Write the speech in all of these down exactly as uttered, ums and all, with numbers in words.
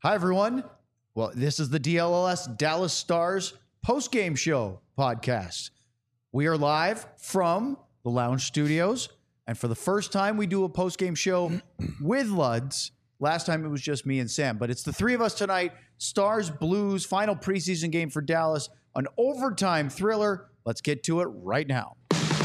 Hi, everyone. Well, this is the D L L S Dallas Stars post-game show podcast. We are live from the Lounge Studios, and for the first time, we do a post-game show with Luds. Last time, it was just me and Sam, but it's the three of us tonight. Stars, Blues, final preseason game for Dallas, an overtime thriller. Let's get to it right now.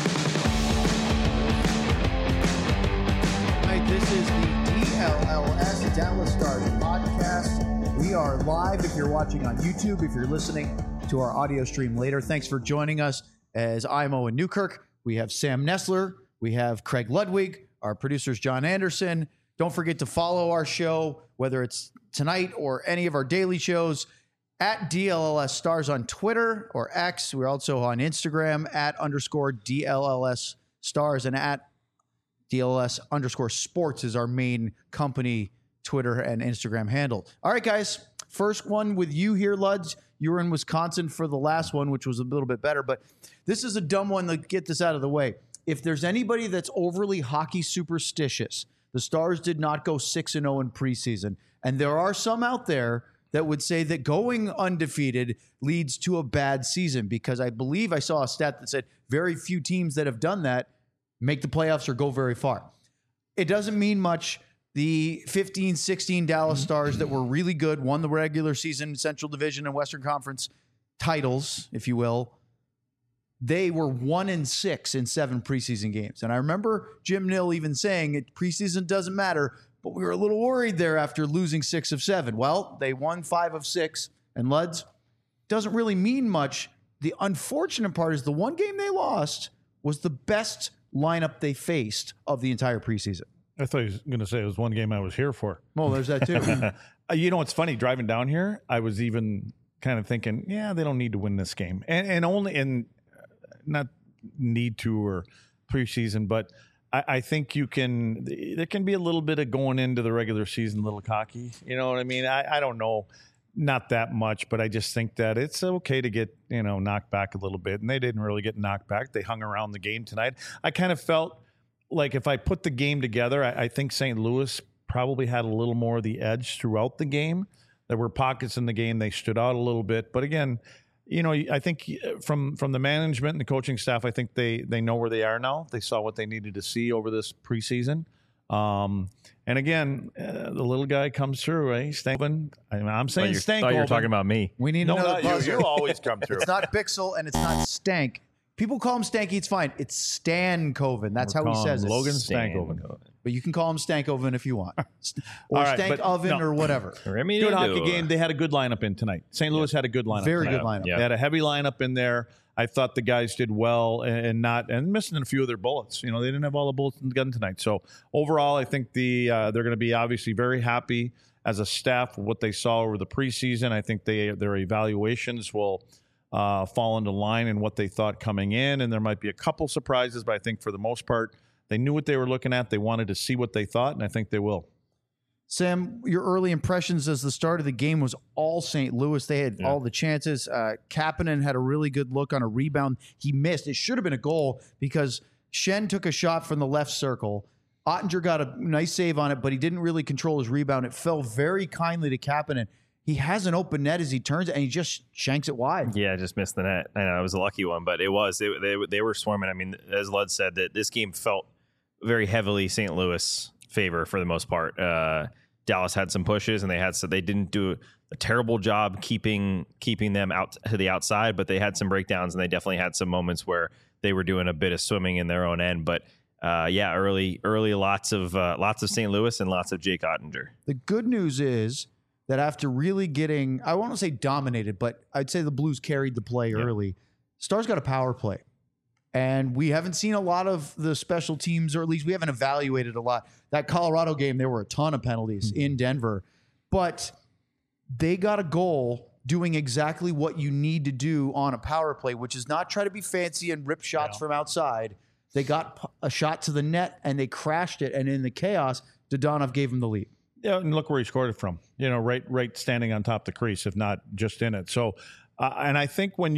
This is the D L L S Dallas Stars podcast. We are live if you're watching on YouTube, if you're listening to our audio stream later. Thanks for joining us as I'm Owen Newkirk. We have Sam Nestler. We have Craig Ludwig. Our producer's John Anderson. Don't forget to follow our show, whether it's tonight or any of our daily shows, at D L L S Stars on Twitter or X. We're also on Instagram at underscore D L L S Stars and at D L L S underscore sports is our main company Twitter and Instagram handle. All right, guys. First one with you here, Luds. You were in Wisconsin for the last one, which was a little bit better, but this is a dumb one. To get this out of the way. If there's anybody that's overly hockey superstitious, the Stars did not go six and oh in preseason. And there are some out there that would say that going undefeated leads to a bad season, because I believe I saw a stat that said very few teams that have done that make the playoffs or go very far. It doesn't mean much. The fifteen sixteen Dallas Stars that were really good, won the regular season, Central Division and Western Conference titles, if you will. They were one and six in seven preseason games. And I remember Jim Nill even saying it, preseason doesn't matter, but we were a little worried there after losing six of seven. Well, they won five of six, and Luds, doesn't really mean much. The unfortunate part is the one game they lost was the best lineup they faced of the entire preseason. I thought he was going to say it was one game I was here for. Well, there's that too. You know what's funny? Driving down here, I was even kind of thinking, yeah, they don't need to win this game, and and only and not need to or preseason, but I, I think you can. There can be a little bit of going into the regular season, a little cocky. You know what I mean? I, I don't know. Not that much, but I just think that it's okay to get, you know, knocked back a little bit. And they didn't really get knocked back. They hung around the game tonight. I kind of felt like if I put the game together, I, I think Saint Louis probably had a little more of the edge throughout the game. There were pockets in the game. They stood out a little bit. But again, you know, I think from from the management and the coaching staff, I think they they know where they are now. They saw what they needed to see over this preseason. Um, and again, uh, the little guy comes through, right? Stankoven. I mean, I'm saying Stankoven. I thought you were talking about me. We need no, another no, buzzer. you, you always come through. It's not Bixel and it's not Stank. People call him Stanky. It's fine. It's Stankoven. That's We're how he says it. Logan Stankoven. But you can call him Stankoven if you want. Or right, Stank but Oven no. or whatever. Good hockey game. They had a good lineup in tonight. Saint Louis had a good lineup. Very tonight. good lineup. Yeah. They had a heavy lineup in there. I thought the guys did well and not and missing a few of their bullets. You know, they didn't have all the bullets in the gun tonight. So overall, I think the uh, they're going to be obviously very happy as a staff with what they saw over the preseason. I think they their evaluations will uh, fall into line in what they thought coming in, and there might be a couple surprises, but I think for the most part, they knew what they were looking at. They wanted to see what they thought, and I think they will. Sam, your early impressions as the start of the game was all Saint Louis. They had Yeah. all the chances. Uh, Kapanen had a really good look on a rebound. He missed. It should have been a goal because Shen took a shot from the left circle. Ottinger got a nice save on it, but he didn't really control his rebound. It fell very kindly to Kapanen. He has an open net as he turns it, and he just shanks it wide. Yeah, just missed the net. I know it was a lucky one, but it was. They, they, they were swarming. I mean, as Lud said, that this game felt very heavily Saint Louis favor for the most part. Uh, Dallas had some pushes, and they had so they didn't do a terrible job keeping keeping them out to the outside, but they had some breakdowns, and they definitely had some moments where they were doing a bit of swimming in their own end. But uh, yeah, early early lots of uh, lots of Saint Louis and lots of Jake Ottinger. The good news is that after really getting, I won't say dominated, but I'd say the Blues carried the play Yeah. early. Stars got a power play. And we haven't seen a lot of the special teams, or at least we haven't evaluated a lot. That Colorado game, there were a ton of penalties Mm-hmm. in Denver. But they got a goal doing exactly what you need to do on a power play, which is not try to be fancy and rip shots Yeah. from outside. They got p- a shot to the net, and they crashed it. And in the chaos, Dodonov gave them the lead. Yeah, and look where he scored it from. You know, right, right, standing on top of the crease, if not just in it. So, uh, and I think when you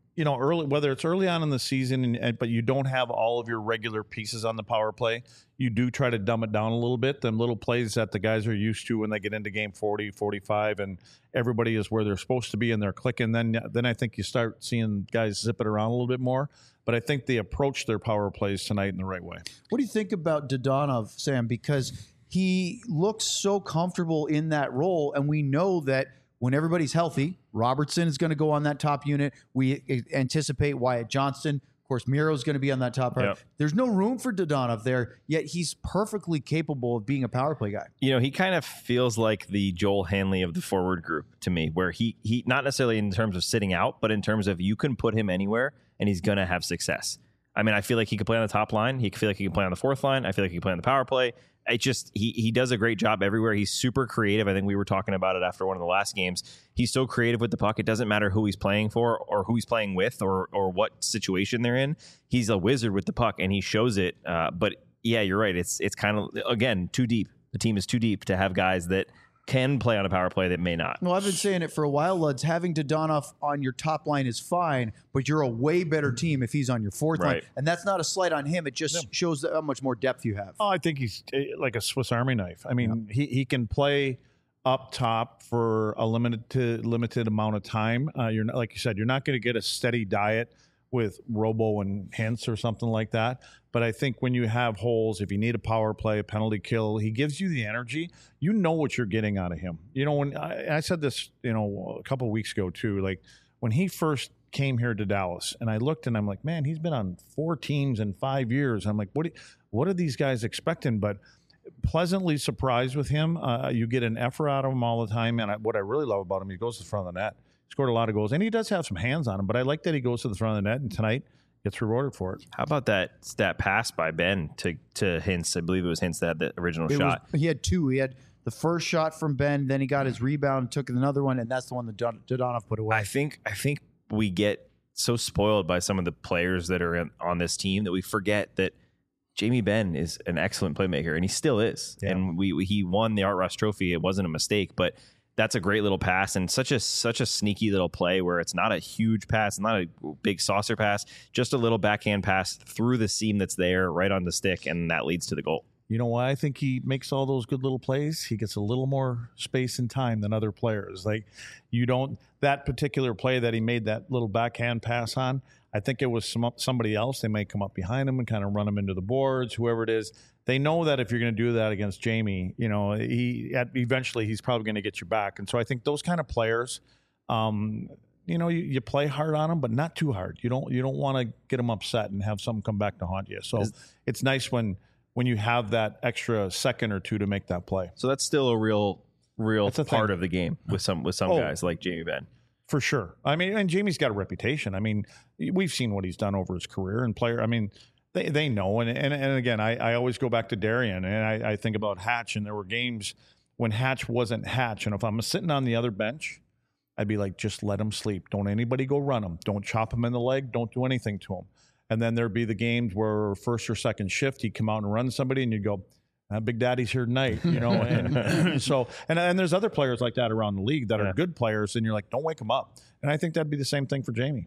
you know, early, whether it's early on in the season, and, and, but you don't have all of your regular pieces on the power play, you do try to dumb it down a little bit. Them little plays that the guys are used to when they get into game forty, forty-five, and everybody is where they're supposed to be and they're clicking. Then, then I think you start seeing guys zip it around a little bit more. But I think they approach their power plays tonight in the right way. What do you think about Dodonov, Sam? Because he looks so comfortable in that role, and we know that when everybody's healthy, Robertson is going to go on that top unit. We anticipate Wyatt Johnston. Of course, Miro's going to be on that top. Yep. There's no room for Dodonov there, yet he's perfectly capable of being a power play guy. You know, he kind of feels like the Joel Hanley of the forward group to me, where he, he not necessarily in terms of sitting out, but in terms of you can put him anywhere and he's going to have success. I mean, I feel like he could play on the top line. He feel like he can play on the fourth line. I feel like he can play on the power play. It just, he he does a great job everywhere. He's super creative. I think we were talking about it after one of the last games. He's so creative with the puck. It doesn't matter who he's playing for or who he's playing with or or what situation they're in. He's a wizard with the puck, and he shows it. Uh, but yeah, you're right. It's it's kind of, again, too deep. The team is too deep to have guys that can play on a power play that may not. Well, I've been saying it for a while, Luds. Having Dodonov on your top line is fine, but you're a way better team if he's on your fourth Right. line. And that's not a slight on him. It just No. shows how much more depth you have. Oh, I think he's uh, like a Swiss Army knife. I mean, he, he can play up top for a limited limited amount of time. Uh, you're not, like you said, you're not going to get a steady diet with Robo and Hintz or something like that. But I think when you have holes, if you need a power play, a penalty kill, he gives you the energy. You know what you're getting out of him. You know, when I, I said this, you know, a couple of weeks ago too, like when he first came here to Dallas, and I looked and I'm like, man, he's been on four teams in five years. I'm like, what? Do, what are these guys expecting? But pleasantly surprised with him. Uh, you get an effort out of him all the time, and I, what I really love about him, he goes to the front of the net. Scored a lot of goals, and he does have some hands on him, but I like that he goes to the front of the net, and tonight gets rewarded for it. How about that that pass by Ben to to Hintz? I believe it was Hintz that had the original It shot. was, he had two. He had the first shot from Ben, then he got his rebound, took another one, and that's the one that Dod- Dodonov put away. I think I think we get so spoiled by some of the players that are in, on this team that we forget that Jamie Benn is an excellent playmaker, and he still is. Yeah. And we, we he won the Art Ross Trophy. It wasn't a mistake, but that's a great little pass and such a such a sneaky little play where it's not a huge pass, not a big saucer pass, just a little backhand pass through the seam that's there, right on the stick, and that leads to the goal. You know why I think he makes all those good little plays? He gets a little more space and time than other players. Like you don't, that particular play that he made that little backhand pass on, I think it was some, somebody else. They may come up behind him and kind of run him into the boards, whoever it is. They know that if you're going to do that against Jamie, you know, he at, eventually he's probably going to get you back. And so I think those kind of players, um, you know, you, you play hard on them, but not too hard. You don't you don't want to get them upset and have something come back to haunt you. So Is, it's nice when when you have that extra second or two to make that play. So that's still a real real That's a part thing. of the game with some with some Oh. guys like Jamie Benn. For sure. I mean, and Jamie's got a reputation. I mean, we've seen what he's done over his career and player. I mean, they, they know. And, and, and again, I, I always go back to Darian and I, I think about Hatch, and there were games when Hatch wasn't Hatch. And if I'm sitting on the other bench, I'd be like, just let him sleep. Don't anybody go run him. Don't chop him in the leg. Don't do anything to him. And then there'd be the games where first or second shift, he'd come out and run somebody and you'd go, Uh, Big Daddy's here tonight, you know, and so and and there's other players like that around the league that Yeah. are good players, and you're like, don't wake them up. And I think that'd be the same thing for Jamie.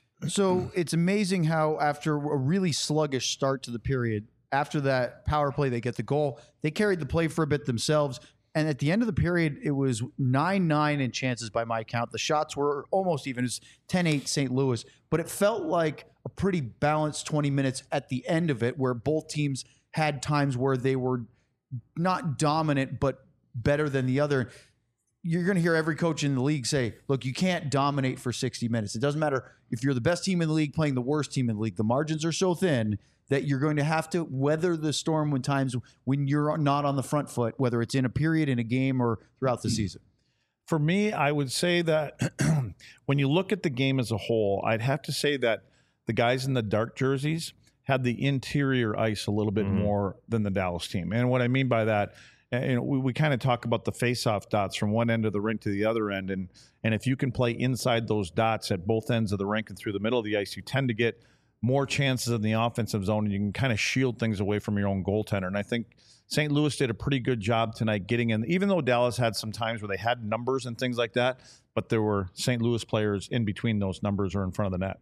So it's amazing how after a really sluggish start to the period, after that power play, they get the goal. They carried the play for a bit themselves. And at the end of the period, it was nine nine in chances by my count. The shots were almost even. It was ten eight Saint Louis. But it felt like a pretty balanced twenty minutes at the end of it where both teams had times where they were not dominant, but better than the other. You're going to hear every coach in the league say, look, you can't dominate for sixty minutes. It doesn't matter if you're the best team in the league playing the worst team in the league. The margins are so thin that you're going to have to weather the storm when times when you're not on the front foot, whether it's in a period, in a game, or throughout the season. For me, I would say that when you look at the game as a whole, I'd have to say that the guys in the dark jerseys had the interior ice a little bit Mhm. more than the Dallas team. And what I mean by that, uh, you know, we, we kind of talk about the face-off dots from one end of the rink to the other end. And, and if you can play inside those dots at both ends of the rink and through the middle of the ice, you tend to get more chances in the offensive zone, and you can kind of shield things away from your own goaltender. And I think Saint Louis did a pretty good job tonight getting in, even though Dallas had some times where they had numbers and things like that, but there were Saint Louis players in between those numbers or in front of the net.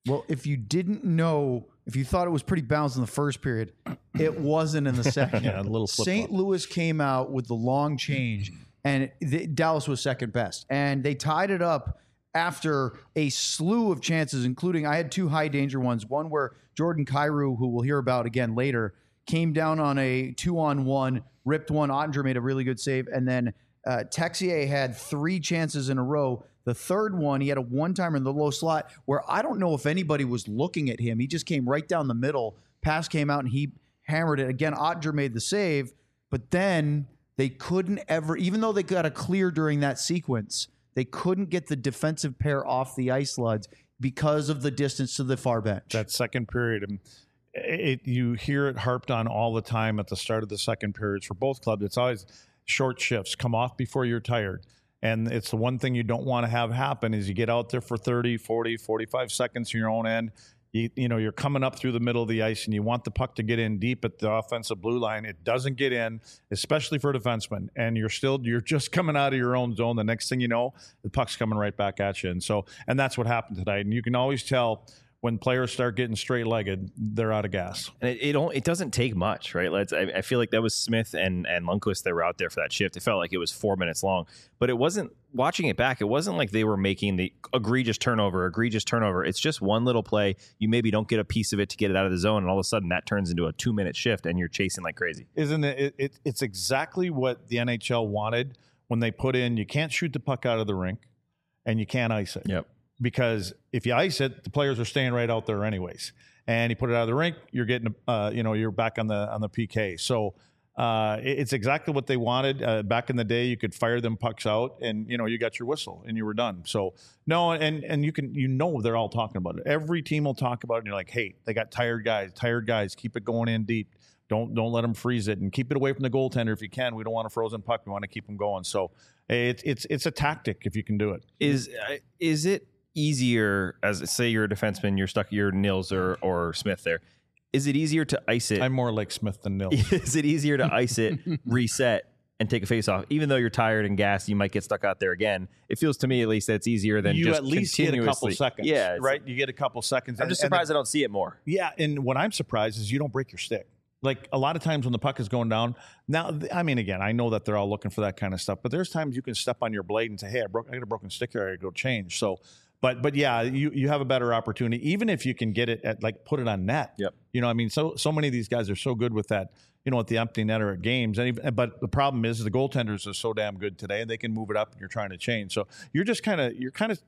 Well, if you didn't know, if you thought it was pretty balanced in the first period, it wasn't in the second. Yeah, a little Saint Louis came out with the long change, and the, Dallas was second best. And they tied it up after a slew of chances, including I had two high danger ones. One where Jordan Kyrou, who we'll hear about again later, came down on a two-on-one, ripped one. Ottinger made a really good save. And then uh, Texier had three chances in a row. The third one, he had a one-timer in the low slot where I don't know if anybody was looking at him. He just came right down the middle. Pass came out, and he hammered it. Again, Ottinger made the save, but then they couldn't ever, even though they got a clear during that sequence, they couldn't get the defensive pair off the ice, Luds, because of the distance to the far bench. That second period, and it, you hear it harped on all the time at the start of the second periods for both clubs. It's always short shifts. Come off before you're tired. And it's the one thing you don't want to have happen is you get out there for thirty, forty, forty-five seconds in your own end. You, you know, you're coming up through the middle of the ice and you want the puck to get in deep at the offensive blue line. It doesn't get in, especially for defensemen. And you're still, you're just coming out of your own zone. The next thing you know, the puck's coming right back at you. And so, and that's what happened tonight. And you can always tell when players start getting straight-legged, they're out of gas. And it it, don't, it doesn't take much, right? Let's. I, I feel like that was Smith and and Lundqvist that were out there for that shift. It felt like it was four minutes long, but it wasn't. Watching it back, it wasn't like they were making the egregious turnover, egregious turnover. It's just one little play. You maybe don't get a piece of it to get it out of the zone, and all of a sudden that turns into a two-minute shift, and you're chasing like crazy. Isn't it? it, it it's exactly what the N H L wanted when they put in. You can't shoot the puck out of the rink, and you can't ice it. Yep. Because if you ice it, the players are staying right out there anyways. And you put it out of the rink, you're getting, uh, you know, you're back on the on the P K. So uh, it, it's exactly what they wanted. Uh, back in the day, you could fire them pucks out, and you know, you got your whistle, and you were done. So no, and and you can, you know, they're all talking about it. Every team will talk about it. And you're like, hey, they got tired guys, tired guys. Keep it going in deep. Don't don't let them freeze it, and keep it away from the goaltender if you can. We don't want a frozen puck. We want to keep them going. So it's it's it's a tactic if you can do it. Is uh, is it easier, as say you're a defenseman, you're stuck, you're Nils or or Smith there. Is it easier to ice it? I'm more like Smith than Nils. Is it easier to ice it, reset, and take a face off? Even though you're tired and gassed, you might get stuck out there again. It feels to me at least that it's easier than you just at least get a couple seconds. Yeah, right. You get a couple seconds. I'm and, just surprised the, I don't see it more. Yeah, and what I'm surprised is you don't break your stick. Like a lot of times when the puck is going down. Now, I mean, again, I know that they're all looking for that kind of stuff, but there's times you can step on your blade and say, "Hey, I broke, I got a broken stick here. I got to go change." So. But but yeah, you, you have a better opportunity, even if you can get it at like put it on net. Yep. You know, I mean, so so many of these guys are so good with that, you know, at the empty netter at games. And even, but the problem is the goaltenders are so damn good today, and they can move it up, and you're trying to change. So you're just kind of you're kind of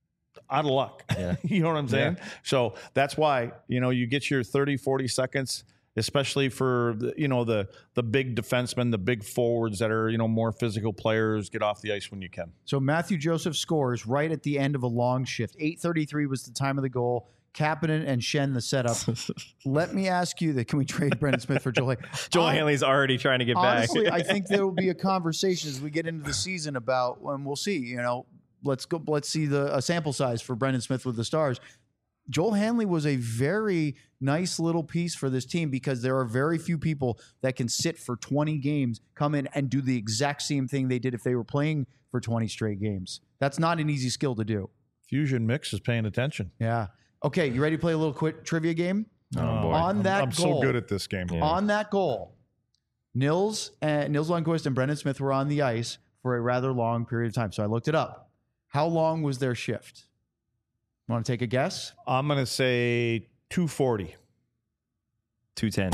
out of luck. Yeah. You know what I'm saying? Yeah. So that's why, you know, you get your thirty, forty seconds. Especially for the, you know, the the big defensemen, the big forwards that are, you know, more physical players, get off the ice when you can. So Matthew Joseph scores right at the end of a long shift. eight thirty-three was the time of the goal. Kapanen and Shen the setup. Let me ask you that. Can we trade Brendan Smith for Joel Hanley? Joel um, Hanley's already trying to get honestly, back. I think there will be a conversation as we get into the season about, and we'll see, you know, let's go, let's see the a sample size for Brendan Smith with the Stars. Joel Hanley was a very nice little piece for this team because there are very few people that can sit for twenty games, come in and do the exact same thing they did if they were playing for twenty straight games. That's not an easy skill to do. Fusion Mix is paying attention. Yeah. Okay, you ready to play a little quick trivia game? Oh, boy. On that I'm, I'm goal, so good at this game. Yeah. On that goal, Nils, uh, Nils Lundqvist and Brendan Smith were on the ice for a rather long period of time. So I looked it up. How long was their shift? Want to take a guess? I'm going to say two forty. two ten.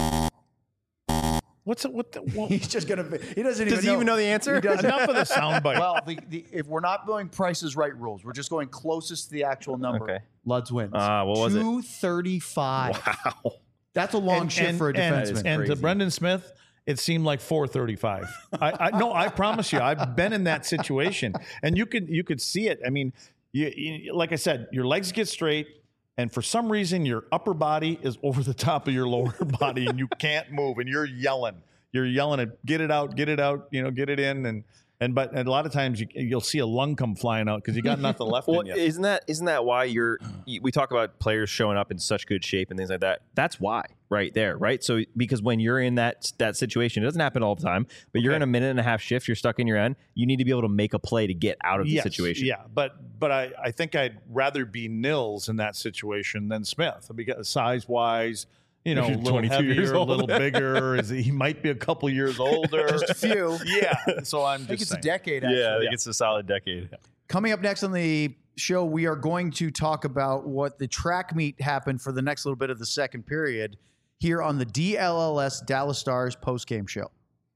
What's it? What? The, well, He's just gonna. He doesn't even. Does he know. even know the answer? He doesn't. enough of the soundbite. Well, the, the, if we're not going Price is Right rules, we're just going closest to the actual number. Okay. Luds wins. Uh, what was it? two thirty-five. Wow. That's a long and, shift and, for a and, defenseman. and to Crazy. Brendan Smith, it seemed like four thirty-five. I, I no, I promise you, I've been in that situation, and you could you could see it. I mean, you, you like I said, your legs get straight. And for some reason, your upper body is over the top of your lower body, and you can't move, and you're yelling. You're yelling at get it out, get it out, you know, get it in, and And but and a lot of times you, you'll see a lung come flying out because you got nothing left well, in you. Isn't that isn't that why you're? We talk about players showing up in such good shape and things like that. That's why, right there, right. So because when you're in that that situation, it doesn't happen all the time. But you're Okay. in a minute and a half shift. You're stuck in your end. You need to be able to make a play to get out of the Yes, situation. Yeah, but but I, I think I'd rather be Nils in that situation than Smith because size wise. You know, a You're little twenty-two years heavier, a old. little bigger. Is he might be a couple years older? Just a few. Yeah. So I'm I think just it's saying. a decade, actually. Yeah, I think it's a solid decade. Coming up next on the show, we are going to talk about what the track meet happened for the next little bit of the second period here on the D L L S Dallas Stars postgame show.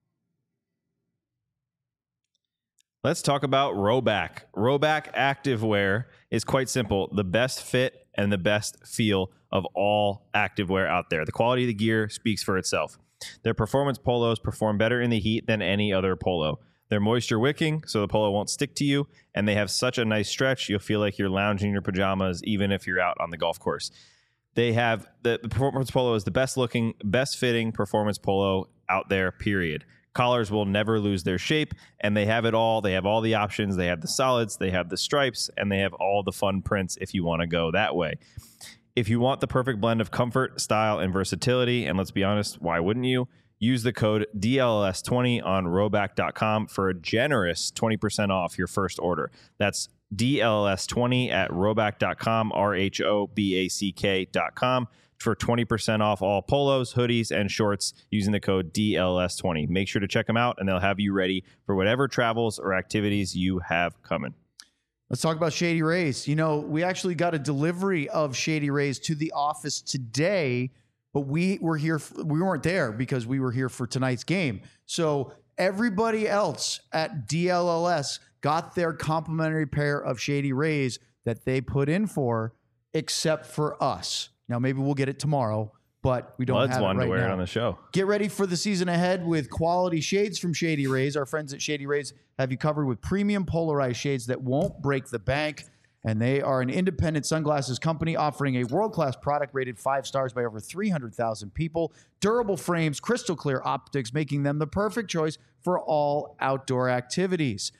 Let's talk about Rhoback. Rhoback Activewear is quite simple. The best fit and the best feel of all activewear out there. The quality of the gear speaks for itself. Their performance polos perform better in the heat than any other polo. They're moisture wicking, so the polo won't stick to you, and they have such a nice stretch, you'll feel like you're lounging in your pajamas even if you're out on the golf course. They have the, the performance polo is the best looking, best fitting performance polo out there, period. Collars will never lose their shape, and they have it all. They have all the options. They have the solids, they have the stripes, and they have all the fun prints if you want to go that way. If you want the perfect blend of comfort, style, and versatility, and let's be honest, why wouldn't you? Use the code D L L S twenty on rhoback dot com for a generous twenty percent off your first order. That's D L L S twenty at rhoback dot com, R H O B A C K dot com. For twenty percent off all polos, hoodies, and shorts using the code D L L S twenty. Make sure to check them out, and they'll have you ready for whatever travels or activities you have coming. Let's talk about Shady Rays. You know, we actually got a delivery of Shady Rays to the office today, but we were here. For, we weren't there because we were here for tonight's game. So everybody else at D L L S got their complimentary pair of Shady Rays that they put in for, except for us. Now, maybe we'll get it tomorrow, but we don't Lud's have it wanted right to wear now. it on the show. Get ready for the season ahead with quality shades from Shady Rays. Our friends at Shady Rays have you covered with premium polarized shades that won't break the bank. And they are an independent sunglasses company offering a world-class product rated five stars by over three hundred thousand people. Durable frames, crystal clear optics, making them the perfect choice for all outdoor activities.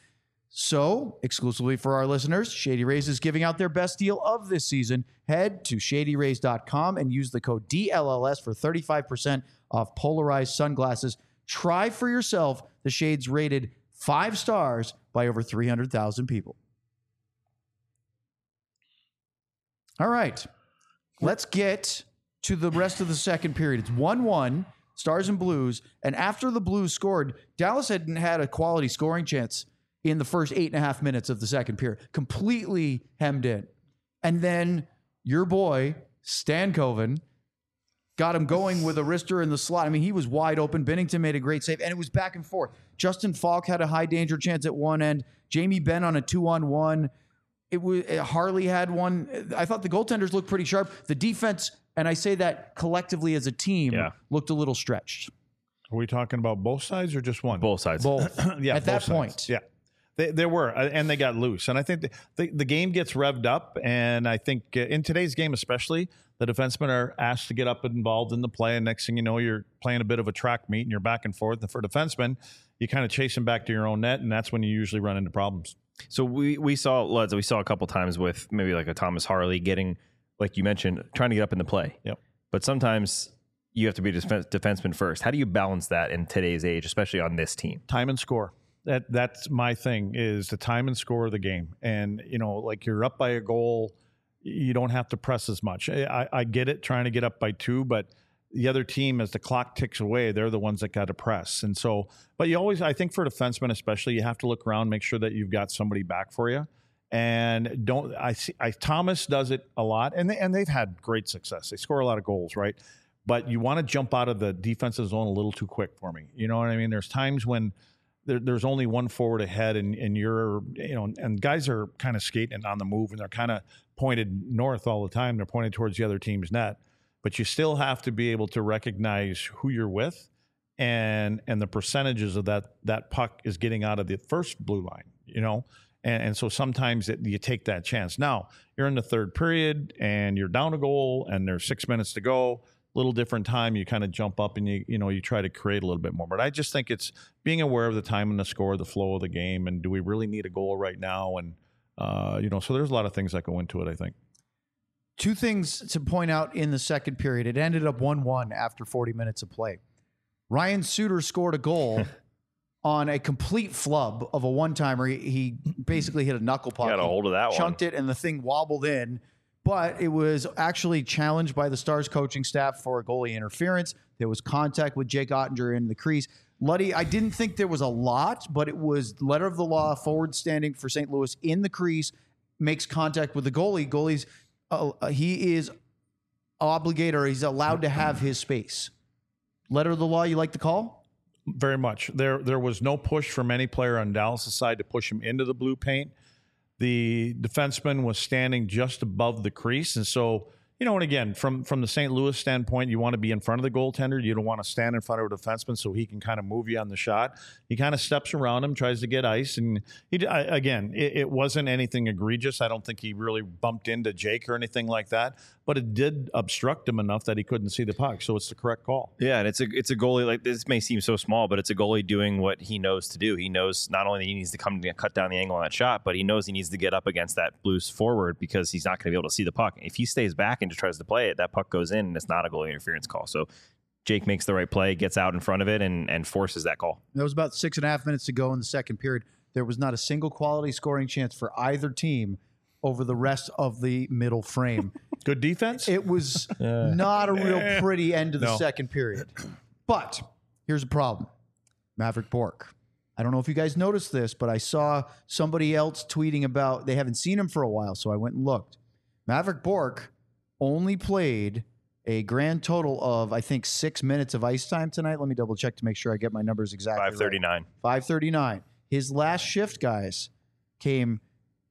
So, exclusively for our listeners, Shady Rays is giving out their best deal of this season. Head to shady rays dot com and use the code D L L S for thirty-five percent off polarized sunglasses. Try for yourself the shades rated five stars by over three hundred thousand people. All right, let's get to the rest of the second period. It's one one, Stars and Blues. And after the Blues scored, Dallas hadn't had a quality scoring chance in the first eight and a half minutes of the second period, completely hemmed in. And then your boy, Stankoven, got him going with a wrister in the slot. I mean, he was wide open. Bennington made a great save, and it was back and forth. Justin Falk had a high danger chance at one end. Jamie Benn on a two-on-one. It was Harley had one. I thought the goaltenders looked pretty sharp. The defense, and I say that collectively as a team, Yeah. looked a little stretched. Are we talking about both sides or just one? Both sides. Both. Yeah, At both that sides. point. Yeah. They, they were, uh, and they got loose. And I think the, the, the game gets revved up. And I think uh, in today's game, especially, the defensemen are asked to get up and involved in the play. And next thing you know, you're playing a bit of a track meet and you're back and forth. And for defensemen, you kind of chase them back to your own net. And that's when you usually run into problems. So we we saw Luds, we saw a couple times with maybe like a Thomas Harley getting, like you mentioned, trying to get up in the play. Yep. But sometimes you have to be a defense, defenseman first. How do you balance that in today's age, especially on this team? Time and score. That that's my thing, is the time and score of the game. And, you know, like you're up by a goal, you don't have to press as much. I, I get it, trying to get up by two, but the other team, as the clock ticks away, they're the ones that got to press. And so, but you always, I think for defensemen especially, you have to look around, make sure that you've got somebody back for you. And don't, I see, I, Thomas does it a lot, and they, and they've had great success. They score a lot of goals, right? But you want to jump out of the defensive zone a little too quick for me. You know what I mean? There's times when there, there's only one forward ahead, and, and you're, you know, and guys are kind of skating on the move, and they're kind of pointed north all the time. They're pointed towards the other team's net. But you still have to be able to recognize who you're with, and and the percentages of that that puck is getting out of the first blue line, you know. And, and so sometimes it, you take that chance. Now, you're in the third period, and you're down a goal, and there's six minutes to go. little different time, you kind of jump up and you you know you try to create a little bit more. But I just think it's being aware of the time and the score, the flow of the game, and do we really need a goal right now? And uh, you know, so there's a lot of things that go into it, I think. Two things to point out in the second period. It ended up one one after forty minutes of play. Ryan Suter scored a goal on a complete flub of a one-timer. He, he basically hit a knuckle puck. Got a hold of that one. Chunked it, and the thing wobbled in. But it was actually challenged by the Stars coaching staff for a goalie interference. There was contact with Jake Ottinger in the crease. Luddy, I didn't think there was a lot, but it was letter of the law, forward standing for Saint Louis in the crease, makes contact with the goalie. Goalie's, uh, he is obligated, or he's allowed to have his space. Letter of the law, you like the call? Very much. There there was no push from any player on Dallas' side to push him into the blue paint. The defenseman was standing just above the crease. And so, you know, and again, from, from the Saint Louis standpoint, you want to be in front of the goaltender. You don't want to stand in front of a defenseman so he can kind of move you on the shot. He kind of steps around him, tries to get ice. And he, I, again, it, it wasn't anything egregious. I don't think he really bumped into Jake or anything like that. But it did obstruct him enough that he couldn't see the puck. So it's the correct call. Yeah, and it's a it's a goalie, like, this may seem so small, but it's a goalie doing what he knows to do. He knows not only that he needs to come to cut down the angle on that shot, but he knows he needs to get up against that Blues forward because he's not going to be able to see the puck. If he stays back and just tries to play it, that puck goes in, and it's not a goalie interference call. So Jake makes the right play, gets out in front of it, and and forces that call. There was about six and a half minutes to go in the second period. There was not a single quality scoring chance for either team over the rest of the middle frame. Good defense? It was not a real pretty end to the No. second period. But here's a problem. Maverick Bourque. I don't know if you guys noticed this, but I saw somebody else tweeting about they haven't seen him for a while, so I went and looked. Maverick Bourque only played a grand total of, I think, six minutes of ice time tonight. Let me double check to make sure I get my numbers exactly five thirty-nine. right. five thirty-nine. His last shift, guys, came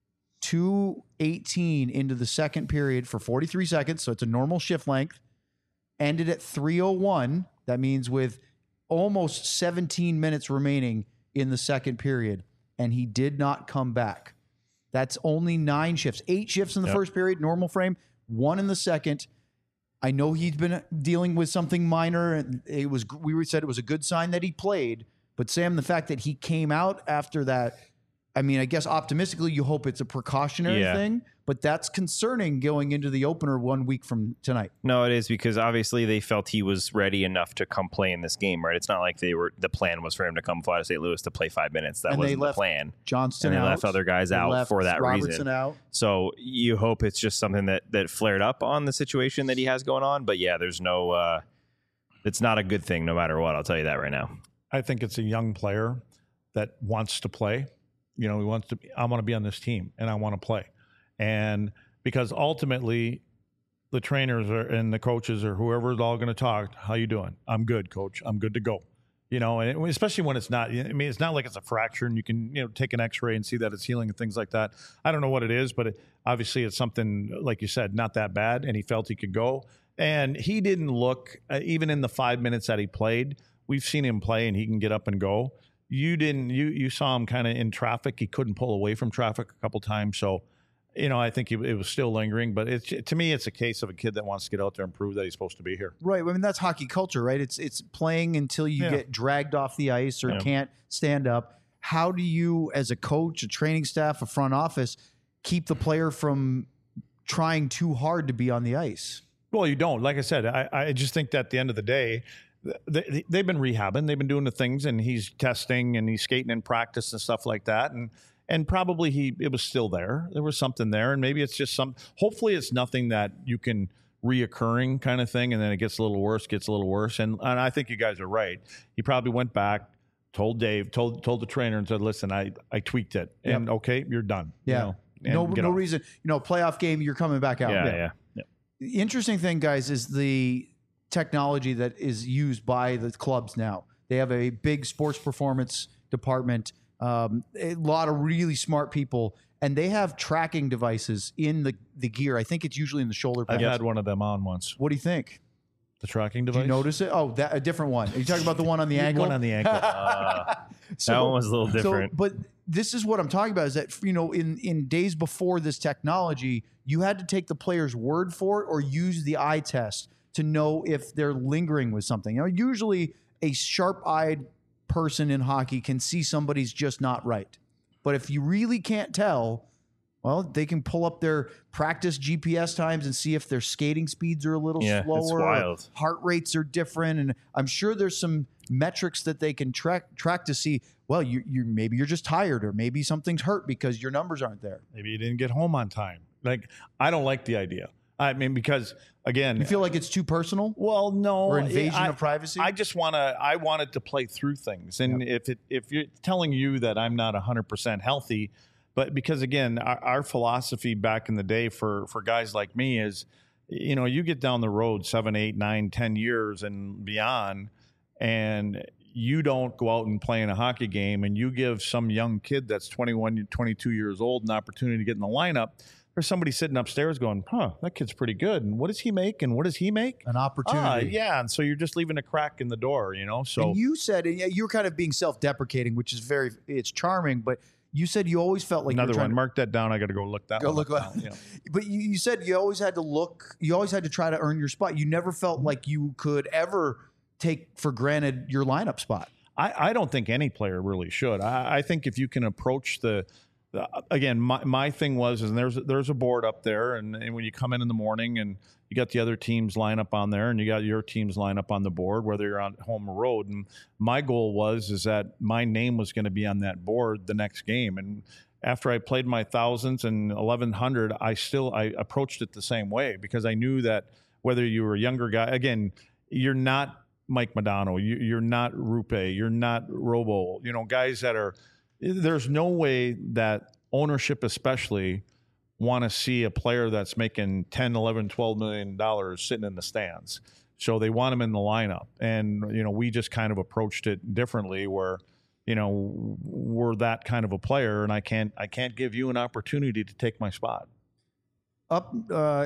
two eighteen into the second period for forty-three seconds, so it's a normal shift length. Ended at three oh one. That means with almost seventeen minutes remaining in the second period, and he did not come back. That's only nine shifts. Eight shifts in the Yep. first period, normal frame, one in the second. I know he's been dealing with something minor, and it was we said it was a good sign that he played. But Sam, the fact that he came out after that, I mean, I guess optimistically you hope it's a precautionary Yeah. thing, but that's concerning going into the opener one week from tonight. No, it is, because obviously they felt he was ready enough to come play in this game, right? It's not like they were. The plan was for him to come fly to Saint Louis to play five minutes. That And they wasn't the left plan. Johnston And they out. left other guys They out left for that Robertson reason. out. So you hope it's just something that that flared up on the situation that he has going on. But yeah, there's no. Uh, it's not a good thing, no matter what. I'll tell you that right now. I think it's a young player that wants to play. You know, he wants to. I want to be on this team, and I want to play. And because ultimately, the trainers are, and the coaches or whoever is all going to talk. How you doing? I'm good, coach. I'm good to go. You know, and especially when it's not. I mean, it's not like it's a fracture, and you can you know take an X-ray and see that it's healing and things like that. I don't know what it is, but it, obviously it's something like you said, not that bad, and he felt he could go. And he didn't look uh, even in the five minutes that he played. We've seen him play, and he can get up and go. You didn't. You you saw him kind of in traffic. He couldn't pull away from traffic a couple times. So, you know, I think it, it was still lingering. But it's to me, it's a case of a kid that wants to get out there and prove that he's supposed to be here. Right. I mean, that's hockey culture, right? It's it's playing until you Yeah. get dragged off the ice or Yeah. can't stand up. How do you, as a coach, a training staff, a front office, keep the player from trying too hard to be on the ice? Well, you don't. Like I said, I, I just think that at the end of the day, they, they've been rehabbing, they've been doing the things, and he's testing and he's skating in practice and stuff like that. And and probably he it was still there. There was something there, and maybe it's just some. Hopefully, it's nothing that you can reoccurring kind of thing, and then it gets a little worse, gets a little worse. And and I think you guys are right. He probably went back, told Dave, told told the trainer, and said, "Listen, I I tweaked it, and Yep. okay, you're done." Yeah. You know, and no get no off. reason. You know, playoff game, you're coming back out. Yeah, yeah. yeah. The interesting thing, guys, is the technology that is used by the clubs now. They have a big sports performance department, um, a lot of really smart people, and they have tracking devices in the, the gear. I think it's usually in the shoulder I've pads. had one of them on once. What do you think? The tracking Did device. you notice it? Oh, that a different one. Are you talking about the one on the ankle? One on the ankle. Uh, So- that one was a little So, different. but this is what I'm talking about is that, you know, in, in days before this technology, you had to take the player's word for it or use the eye test to know if they're lingering with something. You know, usually a sharp-eyed person in hockey can see somebody's just not right. But if you really can't tell, well, they can pull up their practice G P S times and see if their skating speeds are a little Yeah, it's slower, wild. heart rates are different, and I'm sure there's some metrics that they can track track to see. Well, you you maybe you're just tired, or maybe something's hurt because your numbers aren't there. Maybe you didn't get home on time. Like, I don't like the idea. I mean, because again, You feel like it's too personal, well, no, or invasion I, of privacy. I just want to. I wanted to play through things, and if it if you're telling you that I'm not one hundred percent healthy, but because again, our, our philosophy back in the day for for guys like me is, you know, you get down the road seven, eight, nine, ten years and beyond, and you don't go out and play in a hockey game, and you give some young kid that's twenty-one, twenty-two years old an opportunity to get in the lineup. There's somebody sitting upstairs going, huh, that kid's pretty good. And what does he make? And what does he make? An opportunity. Ah, yeah. And so you're just leaving a crack in the door, you know? So And you said, and yeah, you were kind of being self-deprecating, which is very, it's charming, but you said you always felt like you another were trying one, to, mark that down. I got to go look that Go one look up what- now, yeah. but you, you said you always had to look, you always had to try to earn your spot. You never felt like you could ever take for granted your lineup spot. I, I don't think any player really should. I, I think if you can approach the, the again, my, my thing was, is there's there's a board up there, and, and when you come in in the morning and you got the other team's lineup on there, and you got your team's lineup on the board, whether you're on home or road. And my goal was is that my name was going to be on that board the next game. And after I played my thousands and eleven hundred, I still I approached it the same way because I knew that whether you were a younger guy, again, you're not Mike Modano, you, you're not Rupe, you're not Robo, you know, guys that are. There's no way that ownership especially want to see a player that's making ten, eleven, twelve million dollars sitting in the stands. So they want him in the lineup. And, you know, we just kind of approached it differently where, you know, we're that kind of a player and I can't I can't give you an opportunity to take my spot. Up, uh,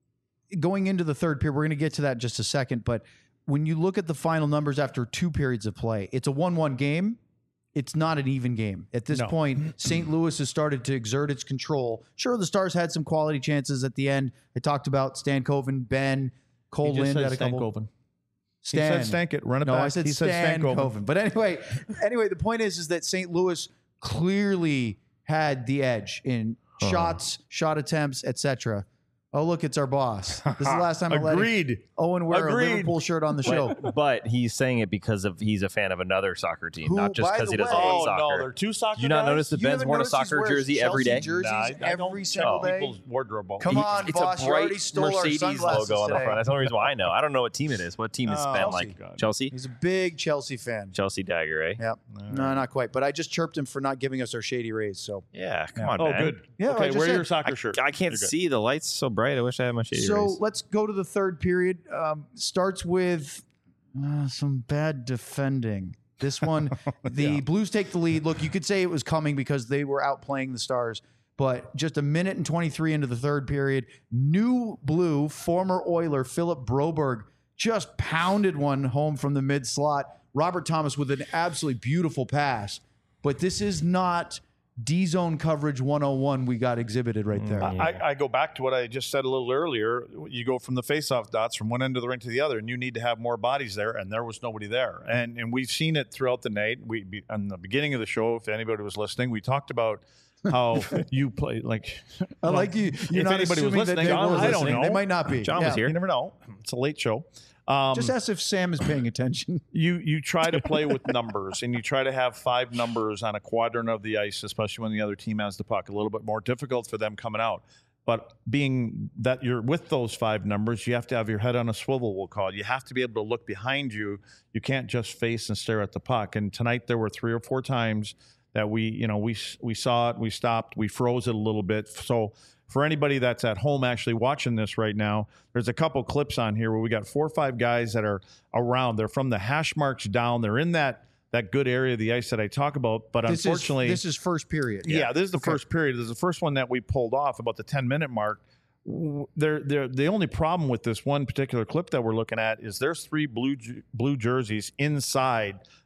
going into the third period, we're going to get to that in just a second, but when you look at the final numbers after two periods of play, it's a one one game. It's not an even game. At this No. point, Saint Louis has started to exert its control. Sure, the Stars had some quality chances at the end. I talked about Stankoven, Ben, Cole He just Lind said had a couple. Stankoven. Stan. He said stank it, run it no, back. I said he said Stankoven. Stankoven. But anyway, anyway, the point is, is that Saint Louis clearly had the edge in shots, shot attempts, et cetera. Oh, look, it's our boss. This is the last time I let Agreed. Owen wear Agreed. a Liverpool shirt on the show. But, but he's saying it because of he's a fan of another soccer team, Who, not just by because the he doesn't way- like Oh, soccer. no, they're two soccer Do you not guys? notice that You Ben's haven't worn a noticed he soccer wears jersey Chelsea every day? jerseys Nah, I- I every don't single tell day. people's wardrobe. Come He- on, it's boss. a You bright already stole our Mercedes sunglasses logo on the today. front. That's the only reason why I know. I don't know what team it is. What team is Oh, Ben Chelsea. like? God. Chelsea? He's a big Chelsea fan. Chelsea Dagger, eh? Yep. No, not quite. But I just chirped him for not giving us our shady rays. So, Yeah, come Yeah. on, Oh, Ben. good. Yeah, I okay, just wear said- your soccer shirt. I can't You're good. see the lights so bright. I wish I had my shady so rays. let's go to the third period. Um, starts with uh, some bad defending. This one, the Yeah. Blues take the lead. Look, you could say it was coming because they were outplaying the Stars. But just a minute and twenty-three into the third period, new Blue, former Oiler Philip Broberg just pounded one home from the mid slot. Robert Thomas with an absolutely beautiful pass. But this is not D-zone coverage one oh one we got exhibited right there. Mm. I, I go back to what I just said a little earlier. You go from the face-off dots from one end of the rink to the other, and you need to have more bodies there, and there was nobody there. And and we've seen it throughout the night. We be, in the beginning of the show, if anybody was listening, we talked about how you play like. I like you. You're if not anybody was assuming that listening, they John were was I don't listening. know. They might not be. John Yeah. was here. You never know. It's a late show. Um, Just ask if Sam is paying attention. you you try to play with numbers and you try to have five numbers on a quadrant of the ice, especially when the other team has the puck. A little bit more difficult for them coming out. But being that you're with those five numbers, you have to have your head on a swivel, we'll call it. You have to be able to look behind you. You can't just face and stare at the puck. And tonight there were three or four times that we, you know, we we saw it, we stopped, we froze it a little bit. So for anybody that's at home actually watching this right now, there's a couple clips on here where we got four or five guys that are around. They're from the hash marks down. They're in that that good area of the ice that I talk about. But This unfortunately, is, this is first period. yeah, this is the Okay. first period. This is the first one that we pulled off about the ten minute mark. They're, they're, the only problem with this one particular clip that we're looking at is there's three blue blue jerseys inside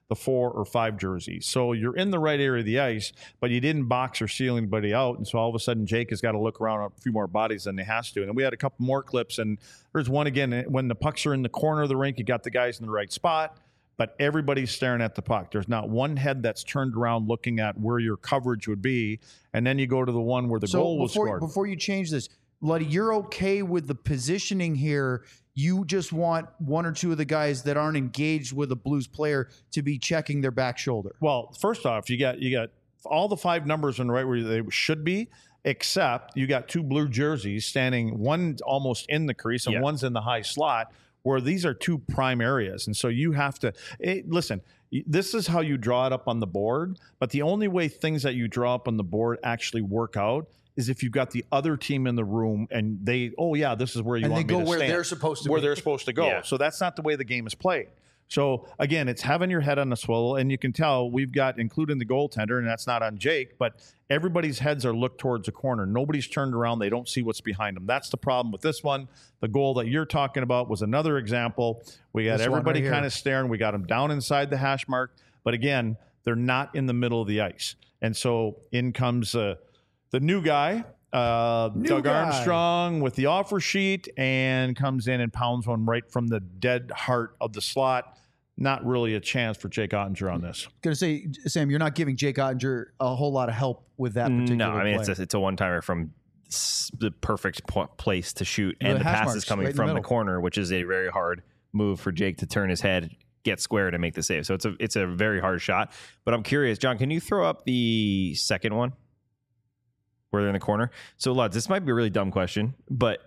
the four or five jerseys. So you're in the right area of the ice, but you didn't box or seal anybody out. And so all of a sudden, Jake has got to look around a few more bodies than he has to. And we had a couple more clips. And there's one again, when the pucks are in the corner of the rink, you got the guys in the right spot, but everybody's staring at the puck. There's not one head that's turned around looking at where your coverage would be. And then you go to the one where the so goal was before, scored. Before you change this, Luddy, you're okay with the positioning here. You just want one or two of the guys that aren't engaged with a Blues player to be checking their back shoulder. Well, first off, you got you got all the five numbers in the right where they should be, except you got two blue jerseys standing, one almost in the crease and yeah. one's in the high slot, where these are two prime areas. And so you have to it, listen. This is how you draw it up on the board, but the only way things that you draw up on the board actually work out is if you've got the other team in the room and they, oh yeah, this is where you and want they me go to where stand. they're supposed to where be. they're supposed to go. Yeah. So that's not the way the game is played. So again, it's having your head on the swivel, and you can tell we've got, including the goaltender, and that's not on Jake, but everybody's heads are looked towards the corner. Nobody's turned around. They don't see what's behind them. That's the problem with this one. The goal that you're talking about was another example. We got This one everybody right kind here. of staring. We got them down inside the hash mark, but again, they're not in the middle of the ice. And so in comes uh, the new guy, uh, New Doug guy. Armstrong with the offer sheet, and comes in and pounds one right from the dead heart of the slot. Not really a chance for Jake Ottinger on this. Going to say, Sam, you're not giving Jake Ottinger a whole lot of help with that particular No, I mean, play. it's a, it's a one-timer from s- the perfect po- place to shoot. The And the hash pass marks is coming right in the from the middle. corner, which is a very hard move for Jake to turn his head, get square to make the save. So it's a it's a very hard shot. But I'm curious, John, can you throw up the second one where they're in the corner? So, Luds, this might be a really dumb question, but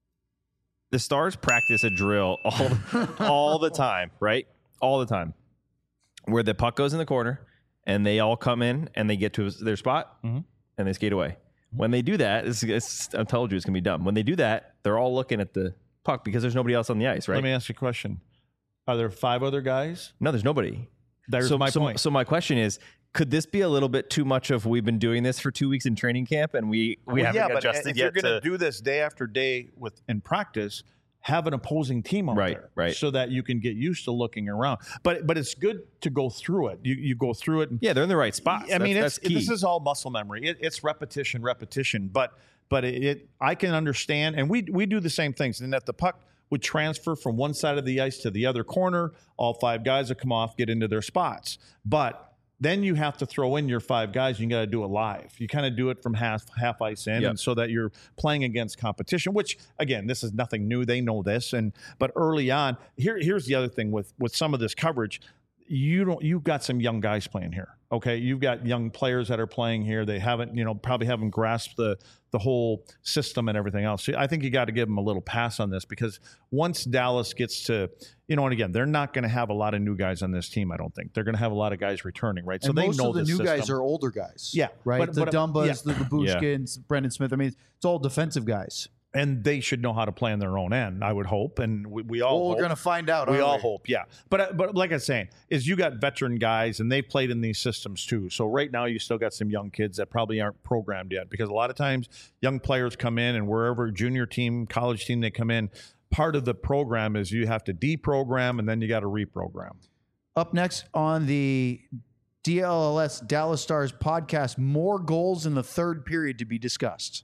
the Stars practice a drill all, all the time, right? All the time. Where the puck goes in the corner and they all come in and they get to their spot Mhm. and they skate away. When they do that, it's, it's, I told you it's going to be dumb. When they do that, they're all looking at the puck because there's nobody else on the ice, right? Let me ask you a question. Are there five other guys? No, there's nobody. There's so, my so, point. So my question is, could this be a little bit too much of we've been doing this for two weeks in training camp and we, we Well, haven't yeah, but adjusted if yet you're going to to... do this day after day with in practice, have an opposing team out Right, there, right. so that you can get used to looking around. But but it's good to go through it. You you go through it. And, Yeah, they're in the right spots. I mean, that's, it's, that's key. this is all muscle memory. It, it's repetition, repetition. But but it, it I can understand, and we we do the same things. And that the puck would transfer from one side of the ice to the other corner. All five guys would come off, get into their spots. But then you have to throw in your five guys. You got to do it live. You kind of do it from half half ice in, Yep. and so that you're playing against competition. Which again, this is nothing new. They know this, and but early on, here here's the other thing with with some of this coverage. You don't. You've got some young guys playing here. Okay, you've got young players that are playing here. They haven't, you know, probably haven't grasped the the whole system and everything else. So I think you got to give them a little pass on this, because once Dallas gets to, you know, and again, they're not going to have a lot of new guys on this team. I don't think they're going to have a lot of guys returning, right? So and they most know of the this new system. guys are older guys. Yeah, Right? but- the but, Dumbas, yeah. the, the Bushkins, Brendan Smith. I mean, it's all defensive guys. and they should know how to play on their own end, I would hope, and we, we all Well, we're hope. going to find out. We aren't all hope, yeah. But uh, but like I was saying, is you got veteran guys, and they played in these systems too. So right now, you still got some young kids that probably aren't programmed yet, because a lot of times young players come in, and wherever junior team, college team they come in, part of the program is you have to deprogram, and then you got to reprogram. Up next on the D L L S Dallas Stars podcast, more goals in the third period to be discussed.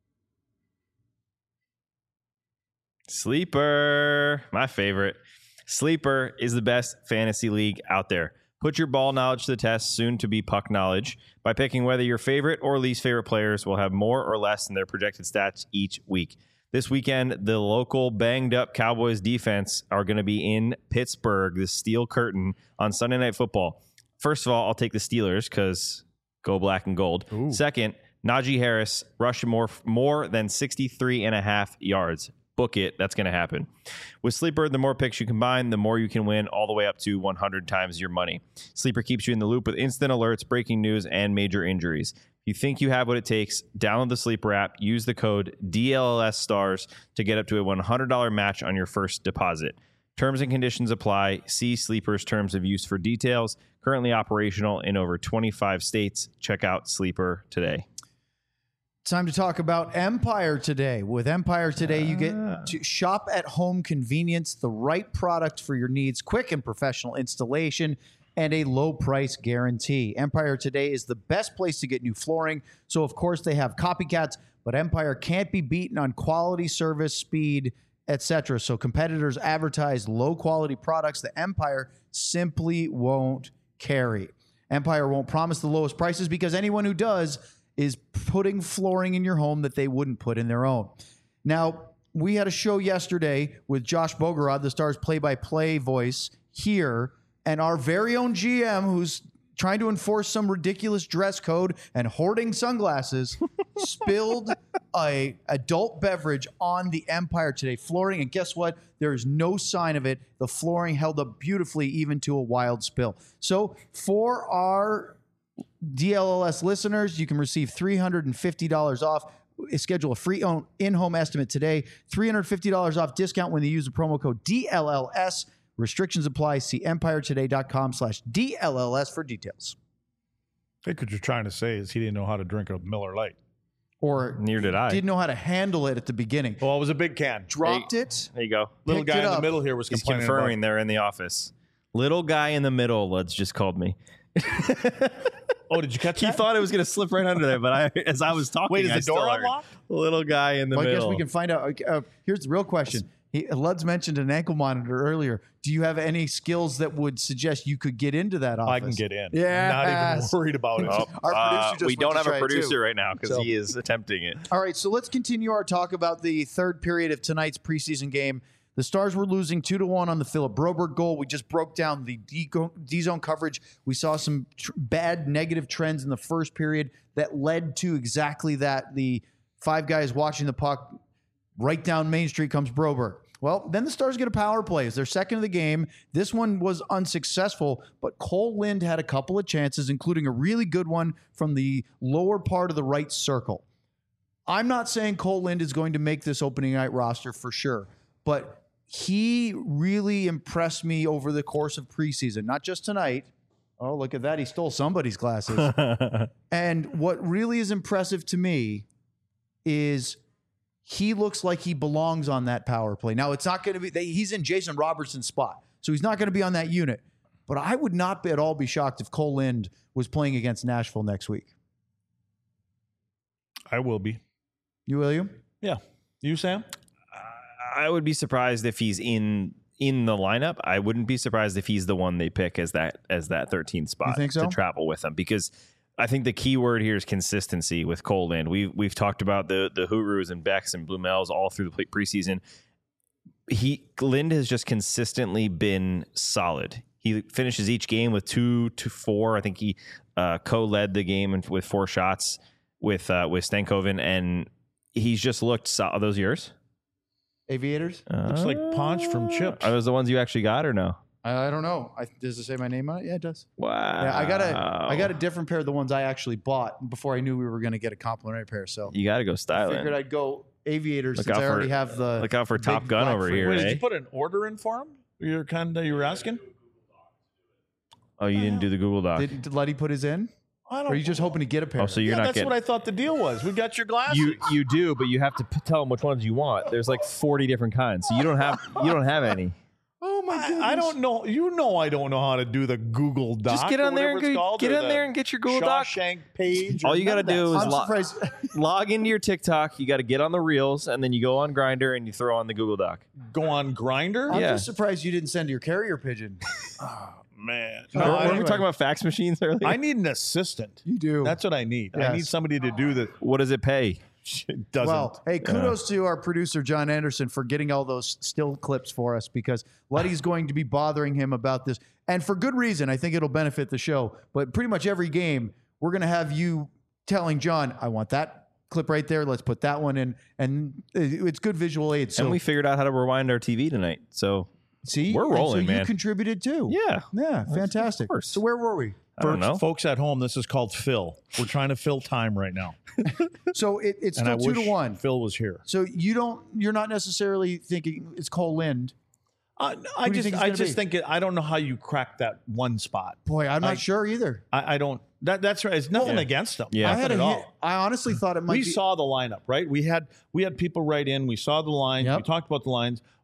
Sleeper, my favorite. Sleeper is the best fantasy league out there. Put your ball knowledge to the test, soon to be puck knowledge, by picking whether your favorite or least favorite players will have more or less in their projected stats each week. This weekend, the local banged up Cowboys defense are going to be in Pittsburgh, the Steel Curtain, on Sunday Night Football. First of all, I'll take the Steelers because go black and gold. Ooh. Second, Najee Harris rushed more, more than sixty-three and a half yards. Book it. That's going to happen. With Sleeper, the more picks you combine, the more you can win, all the way up to one hundred times your money. Sleeper keeps you in the loop with instant alerts, breaking news, and major injuries. If you think you have what it takes, download the Sleeper app, use the code D L L S stars to get up to a one hundred dollars match on your first deposit. Terms and conditions apply. See Sleeper's terms of use for details. Currently operational in over twenty-five states. Check out Sleeper today. Time to talk about Empire today. With Empire today, you get to shop at home convenience, the right product for your needs, quick and professional installation. and a low price guarantee. Empire Today is the best place to get new flooring. So, of course, they have copycats, but Empire can't be beaten on quality, service, speed, et cetera. So competitors advertise low-quality products that Empire simply won't carry. Empire won't promise the lowest prices because anyone who does is putting flooring in your home that they wouldn't put in their own. Now, we had a show yesterday with Josh Bogorod, the Stars play-by-play voice here, and our very own G M, who's trying to enforce some ridiculous dress code and hoarding sunglasses, spilled a adult beverage on the Empire Today flooring. And guess what? There is no sign of it. The flooring held up beautifully, even to a wild spill. So for our D L L S listeners, you can receive three hundred fifty dollars off. Schedule a free in-home estimate today. three hundred fifty dollars off discount when you use the promo code D L L S. Restrictions apply. See empiretoday.com slash D L L S for details. I think what you're trying to say is he didn't know how to drink a Miller Lite. Or Neither did I. didn't know how to handle it at the beginning. Well, it was a big can. Dropped it. There you go. Little picked guy it in the up. middle here was He's complaining confirming about. they're in the office. Little guy in the middle, Luds just called me. Oh, did you catch He that? thought it was going to slip right under there, but I, as I was talking, Wait, is I the still door heard unlocked? Little guy in the Well, I middle. guess we can find out. Uh, here's the real question. He, Luds mentioned an ankle monitor earlier. Do you have any skills that would suggest you could get into that office? I can get in. Yes. Not even worried about it. Oh, Our uh, producer just we went don't to have try a it too. producer right now because So- he is attempting it. All right, so let's continue our talk about the third period of tonight's preseason game. The Stars were losing two to one on the Philip Broberg goal. We just broke down the D- D-zone coverage. We saw some tr- bad negative trends in the first period that led to exactly that. The five guys watching the puck. Right down Main Street comes Broberg. Well, then the Stars get a power play. It's their second of the game. This one was unsuccessful, but Cole Lind had a couple of chances, including a really good one from the lower part of the right circle. I'm not saying Cole Lind is going to make this opening night roster for sure, but he really impressed me over the course of preseason, not just tonight. Oh, look at that. He stole somebody's glasses. And what really is impressive to me is he looks like he belongs on that power play. Now, it's not going to be, they, he's in Jason Robertson's spot, so he's not going to be on that unit. But I would not be at all be shocked if Cole Lind was playing against Nashville next week. I will be. You, William? Yeah. You, Sam? I would be surprised if he's in in the lineup. I wouldn't be surprised if he's the one they pick as that as that thirteenth spot You think so? to travel with them, because I think the key word here is consistency with Cole Lind. We've we've talked about the the Hurus and Becks and Blumels all through the preseason. He Lind has just consistently been solid. He finishes each game with two to four. I think he uh, co-led the game and with four shots with uh, with Stankoven, and he's just looked solid. Are those yours? Aviators? Looks like Ponch from Chips. Are those the ones you actually got or no? I, I don't know. I, does it say my name on it? Yeah, it does. Wow. Yeah, I got a I got a different pair of the ones I actually bought before I knew we were going to get a complimentary pair. So You got to go I styling. figured I'd go Aviators Look since out I already for- have the Look out for big Top Gun black over frame. here. Wait, eh? did you put an order in for him? You're kind of you were asking. Oh, you didn't do the Google Doc. Did, did Letty put his in? I Or are you just hoping to get a pair? Oh, so you're yeah, not that's getting. what I thought the deal was. We got your glasses. You you do, but you have to p- tell them which ones you want. There's like forty different kinds, so you don't have you don't have any. Oh my goodness! I, I don't know. You know, I don't know how to do the Google Doc. Just get or on there and whatever it's go, called, get or on the there and get your Google Doc. Shawshank page. All or you got to none of do that is I'm lo- surprised. log into your TikTok. You got to get on the Reels, and then you go on Grindr and you throw on the Google Doc. go on Grinder. I'm Yeah. just surprised you didn't send your carrier pigeon. Man, Oh, no, Weren't I, we anyway. talking about fax machines earlier? I need an assistant. You do. That's what I need. I Yes. need somebody to do the. what does it pay? It doesn't. Well, hey, kudos to our producer, John Anderson, for getting all those still clips for us because Letty's going to be bothering him about this. And for good reason. I think it'll benefit the show. But pretty much every game, we're going to have you telling John, I want that clip right there. Let's put that one in. And it's good visual aid. So, and we figured out how to rewind our T V tonight. So see, we're and rolling, so you man. contributed too. yeah, Yeah, fantastic. course. So where were we? I don't For know. folks at home, this is called Phil. We're trying to fill time right now, So it, it's and still I two wish to one. Phil was here. So you don't, you're not necessarily thinking it's Cole Lind. I, I Who do you just, think it's I gonna just be? think it, I don't know how you crack that one spot. Boy, I'm not I- sure either. I, I don't. That that's right. It's nothing Yeah. against them. Yeah. I Nothing had at a all. hit. I honestly thought it might We be. saw the lineup, right? We had we had people write in. We saw the lines. Yep. We talked about the lines.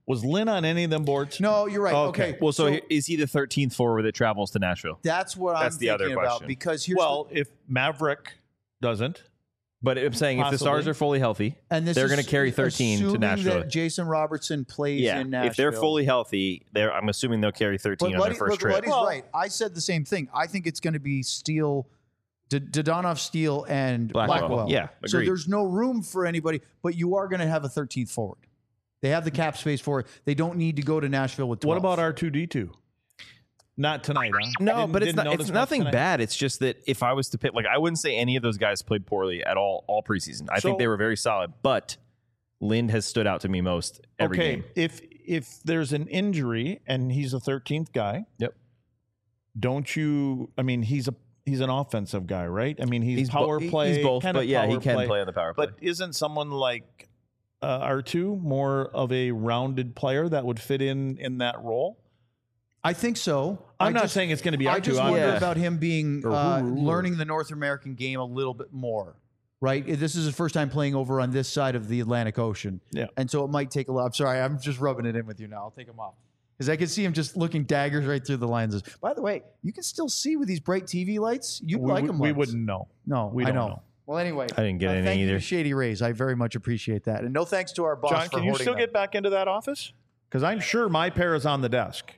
Was Lynn on any of them boards? No, you're right. Okay. Okay. Well, so, he- is he the thirteenth forward that travels to Nashville? that's what That's I'm the other thinking about question. because here's Well, if Maverick doesn't, But I'm saying if the Possibly. Stars are fully healthy, the, and this they're is going to carry thirteen to assuming Nashville. that Jason Robertson plays Yeah, in Nashville. if they're fully healthy, they're, I'm assuming they'll carry thirteen But on Luddy, their first look, trip. Luddy's Well- right. I said the same thing. I think it's going to be Steele, D- Dodonov, Steele, and Blackwell. Blackwell. Yeah, So agreed. there's no room for anybody, but you are going to have a thirteenth forward. They have the cap space for it. They don't need to go to Nashville with twelve. what about R two D two? Not tonight, huh? No, Didn't- but it's didn't not. notice It's much nothing tonight? bad. It's just that if I was to pick, like, I wouldn't say any of those guys played poorly at all all preseason. I So- think they were very solid. But Lind has stood out to me most every okay, game. if if there's an injury and he's a thirteenth guy, Yep. don't you? I mean, he's a he's an offensive guy, right? I mean, he's, He's bo- power he- play. he's both, kinda but yeah, he power can play on the power play. But isn't someone like uh, R two more of a rounded player that would fit in in that role? I think so. I'm I not just, saying it's going to be I R two. just I'm- wonder Yeah. about him being Or uh, who- who- learning the North American game a little bit more. Right, this is his first time playing over on this side of the Atlantic Ocean. Yeah. and so it might take a lot. I'm sorry, I'm just rubbing it in with you now. I'll take him off because I can see him just looking daggers right through the lenses. By the way, you can still see with these bright T V lights. You we, like we- them? we Lutz. wouldn't know. No, we I don't know. know. Well, anyway, I didn't get uh, anything thank you either. to Shady Rays. I very much appreciate that, and no thanks to our boss John, for can you hoarding still them. get back into that office? Because I'm sure my pair is on the desk.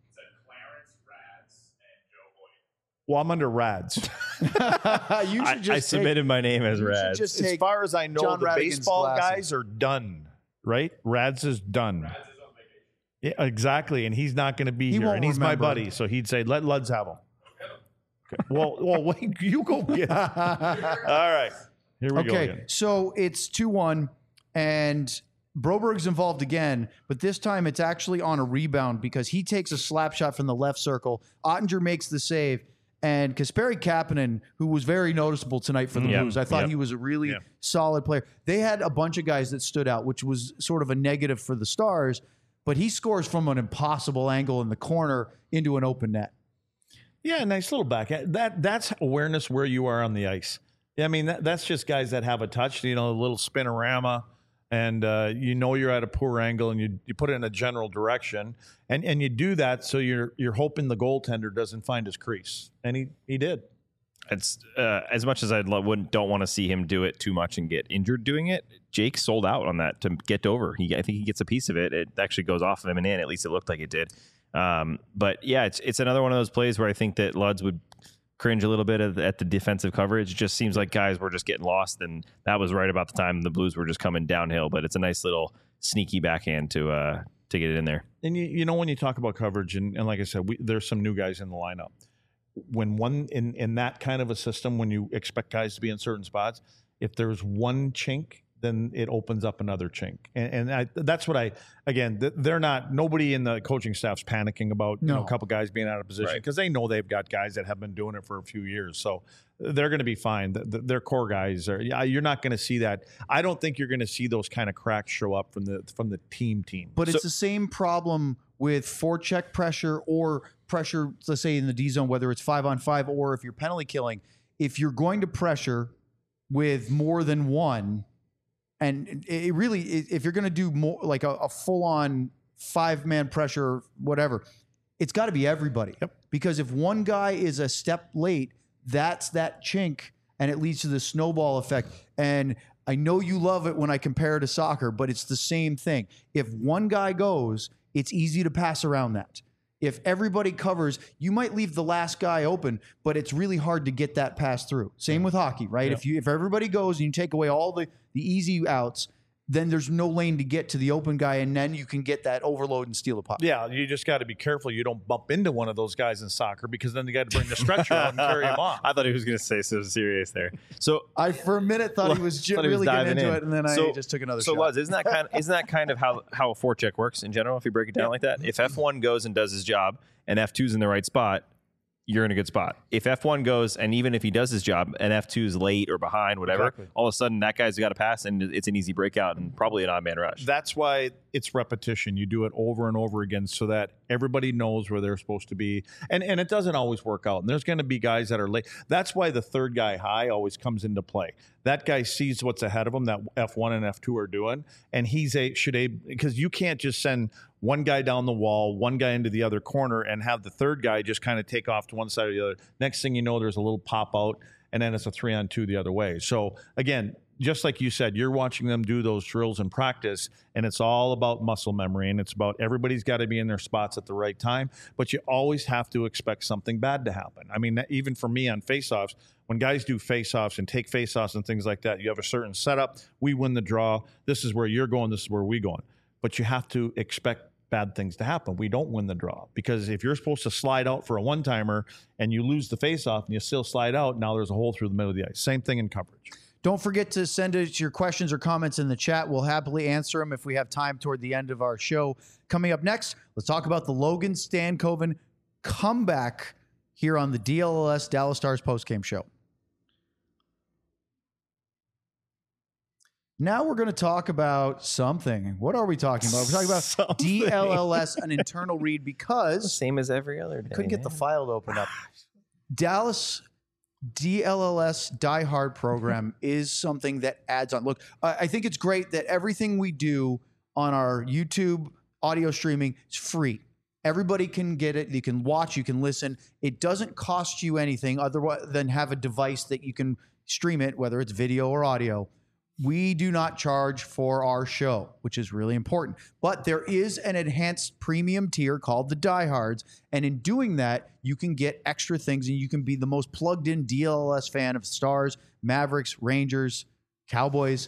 Well, I'm under Rads. you should I, just I take- submitted my name as you should Rad. just As take far as I know, John the Radigan's baseball glasses. guys are done, right? Rads is done. Yeah, exactly, and he's not going to be He here. won't And he's my remember. buddy, so he'd say, "Let Luds have him." Okay. Well, well, wait, you go get. It. All right, here we go. Okay, Again. so it's two one, and Broberg's involved again, but this time it's actually on a rebound because he takes a slap shot from the left circle. Ottinger makes the save, and Kasperi Kapanen, who was very noticeable tonight for the Yeah, Blues, I thought yeah. he was a really Yeah. solid player. They had a bunch of guys that stood out, which was sort of a negative for the Stars, but he scores from an impossible angle in the corner into an open net. Yeah, nice little back. That that's awareness where you are on the ice. Yeah, I mean that, that's just guys that have a touch. You know, a little spinorama, and uh, you know you're at a poor angle, and you you put it in a general direction, and and you do that so you're you're hoping the goaltender doesn't find his crease, and he he did. It's uh, as much as I wouldn't don't want to see him do it too much and get injured doing it. Jake sold out on that to get over. He I think he gets a piece of it. It actually goes off of him and in. At least it looked like it did. Um, but yeah, it's it's another one of those plays where I think that Luds would cringe a little bit at the, at the defensive coverage. It just seems like guys were just getting lost, and that was right about the time the Blues were just coming downhill. But it's a nice little sneaky backhand to uh, to get it in there. And you, you know when you talk about coverage, and, and like I said, we, there's some new guys in the lineup. When one in in that kind of a system, when you expect guys to be in certain spots, if there's one chink, then it opens up another chink. And, and I, that's what I, again, th- they're not, nobody in the coaching staff's panicking about you know, No. a couple guys being out of position Right. because they know they've got guys that have been doing it for a few years. So they're going to be fine. The, the, their core guys are, yeah, you're not going to see that. I don't think you're going to see those kind of cracks show up from the, from the team team. But So- it's the same problem with forecheck pressure or pressure, let's say in the D zone, whether it's five on five or if you're penalty killing. If you're going to pressure with more than one, and it really, if you're going to do more like a, a full on five man pressure, whatever, it's got to be everybody. Yep. Because if one guy is a step late, that's that chink, and it leads to the snowball effect. And I know you love it when I compare it to soccer, but it's the same thing. If one guy goes, it's easy to pass around that. If everybody covers, you might leave the last guy open, but it's really hard to get that pass through. Same with hockey, right? Yeah. If you if everybody goes and you take away all the, the easy outs, then there's no lane to get to the open guy, and then you can get that overload and steal a puck. Yeah, you just got to be careful you don't bump into one of those guys in soccer because then you got to bring the stretcher out and carry him off. I thought he was going to say so serious there. So I for a minute thought he was ju- Thought he was really getting diving into in. it, and then So- I just took another So, shot. Luz, isn't that kind of, isn't that kind of how, how a forecheck works in general, if you break it down like that? If F one goes and does his job and F two's in the right spot, you're in a good spot. If F one goes and even if he does his job and F two's late or behind, whatever, Exactly. all of a sudden that guy's got a pass and it's an easy breakout and probably an odd man rush. That's why it's repetition. You do it over and over again so that Everybody knows where they're supposed to be. And and it doesn't always work out. And there's going to be guys that are late. That's why the third guy high always comes into play. That guy sees what's ahead of him that F one and F two are doing. And he's a, should a, because you can't just send one guy down the wall, one guy into the other corner, and have the third guy just kind of take off to one side or the other. Next thing you know, there's a little pop out, and then it's a three on two the other way. So again, just like you said, you're watching them do those drills in practice, and it's all about muscle memory, and it's about everybody's got to be in their spots at the right time, but you always have to expect something bad to happen. I mean, even for me on face-offs, when guys do face-offs and take face-offs and things like that, you have a certain setup. We win the draw. This is where you're going. This is where we're going. But you have to expect bad things to happen. We don't win the draw, because if you're supposed to slide out for a one-timer and you lose the face-off and you still slide out, now there's a hole through the middle of the ice. Same thing in coverage. Don't forget to send us your questions or comments in the chat. We'll happily answer them if we have time toward the end of our show. Coming up next, let's talk about the Logan Stankoven comeback here on the D L L S Dallas Stars postgame show. Now we're going to talk about something. What are we talking about? We're talking about Something. D L L S, an internal read, because Same as every other day. couldn't get the man. file to open up. Dallas D L L S Die Hard program is something that adds on. Look, I I think it's great that everything we do on our YouTube audio streaming is free. Everybody can get it. You can watch, you can listen. It doesn't cost you anything other than have a device that you can stream it, whether it's video or audio. We do not charge for our show, which is really important. But there is an enhanced premium tier called the Diehards. And in doing that, you can get extra things, and you can be the most plugged in D L L S fan of Stars, Mavericks, Rangers, Cowboys.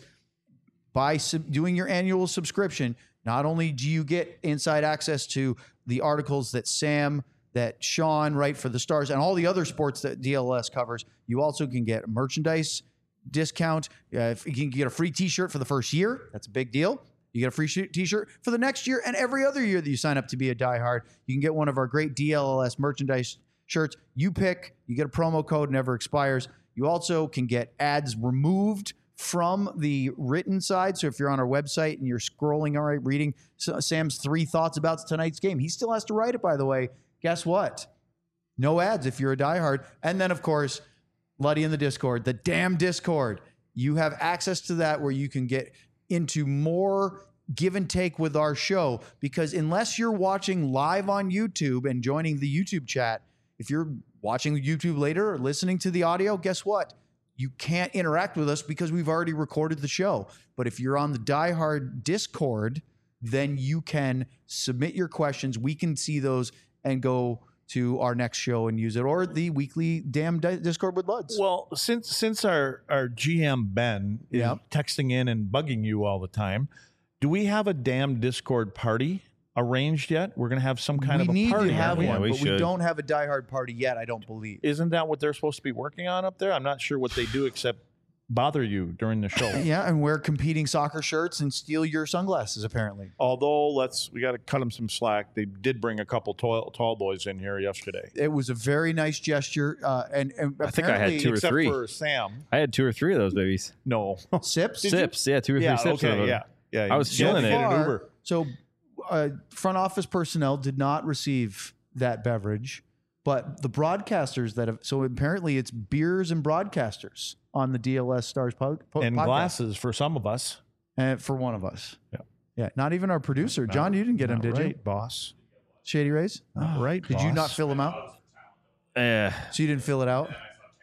By sub- doing your annual subscription, not only do you get inside access to the articles that Sam, that Sean write for the Stars, and all the other sports that D L L S covers, you also can get merchandise discount. Uh, if you can get a free t-shirt for the first year, that's a big deal. You get a free sh- t-shirt for the next year, and every other year that you sign up to be a diehard, you can get one of our great D L L S merchandise shirts. You pick, you get a promo code, never expires. You also can get ads removed from the written side. So if you're on our website and you're scrolling, all right, reading Sam's three thoughts about tonight's game, he still has to write it, by the way. Guess what? No ads if you're a diehard. And then, of course, Luddy in the Discord, the damn Discord. You have access to that where you can get into more give and take with our show, because unless you're watching live on YouTube and joining the YouTube chat, if you're watching YouTube later or listening to the audio, guess what? You can't interact with us because we've already recorded the show. But if you're on the Die Hard Discord, then you can submit your questions. We can see those and go to our next show and use it, or the weekly damn di- Discord with Luds. Well, since since our, our G M Ben is Yep. texting in and bugging you all the time, do we have a damn Discord party arranged yet? We're going to have some kind we of a need party. to have aren't we? Yeah, one, we but we should. don't have a Die Hard party yet, I don't believe. Isn't that what they're supposed to be working on up there? I'm not sure what they do except bother you during the show. Yeah, and wear competing soccer shirts and steal your sunglasses, apparently. Although, let's we got to cut them some slack. They did bring a couple tall, tall boys in here yesterday. It was a very nice gesture. Uh, and, and I think I had apparently- two or Except three. for Sam. I had two or three of those babies. No. Sips? Sips, yeah, two or yeah, three sips. of okay, them. yeah. Yeah, I was you had feeling to it. get an Far- Uber. So, uh, front office personnel did not receive that beverage, but the broadcasters that have, so apparently it's beers and broadcasters on the D L S Stars po- po- And podcast. glasses for some of us. Uh, for one of us. Yeah. Yeah. Not even our producer. John, you didn't get him, Not did you? right, boss. Shady Rays? Not right, Did you boss. not fill him out? Eh. So you didn't fill it out?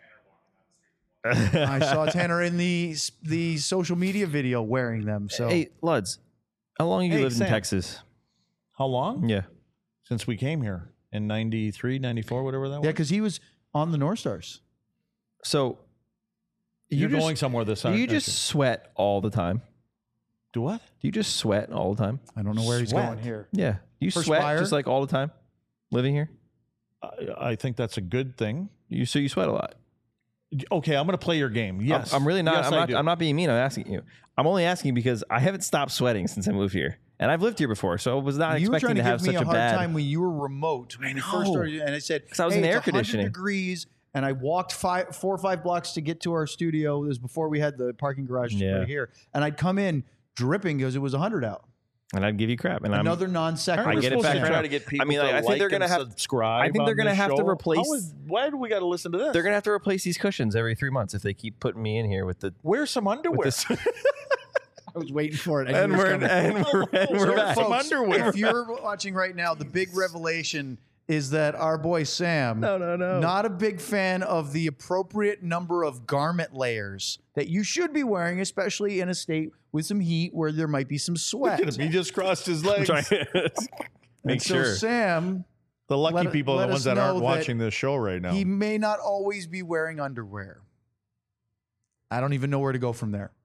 I saw Tanner in the the social media video wearing them. So Hey, Luds, how long have you Hey, lived Sam. in Texas? How long? Yeah. Since we came here in ninety-three, ninety-four, whatever that was. yeah, because he was on the North Stars. So You're you just, going somewhere this do time. you just sweat all the time? do what? Do you just sweat all the time? I don't know where he's Sweat. going here. Yeah. You Perspire? sweat just like all the time living here? I, I think that's a good thing. You so you sweat a lot. Okay, I'm going to play your game. Yes, I'm, I'm really not Yes, I'm I not do. I'm not being mean. I'm asking you. I'm only asking because I haven't stopped sweating since I moved here. And I've lived here before, so I was not You were expecting trying to, to have give me such a a hard bad time when you were remote when you first know. started, and I said, 'Cause I was hey, in it's air one hundred conditioning. degrees, and I walked five, four or five blocks to get to our studio. This was before we had the parking garage Yeah. right here, and I'd come in dripping because it was one hundred out. and I'd give you crap. And Another I'm, non sequitur. I get it back. Try now. to get people I mean, like, to I think like they're gonna and have- subscribe. I think they're on gonna this have to show. replace- How is, why do we got to listen to this? they're gonna have to replace these cushions every three months if they keep putting me in here with the. wear some underwear. With this. I was waiting for it. I and knew it was we're coming. and we're, and So we're back. some Folks, underwear. If you're watching right now, the big revelation is that our boy Sam, No, no, no. not a big fan of the appropriate number of garment layers that you should be wearing, especially in a state with some heat where there might be some sweat. Look at him. He just crossed his legs. Trying to make And so sure. Sam, The lucky Let- people are let the ones us that aren't know that watching this show right now. he may not always be wearing underwear. I don't even know where to go from there.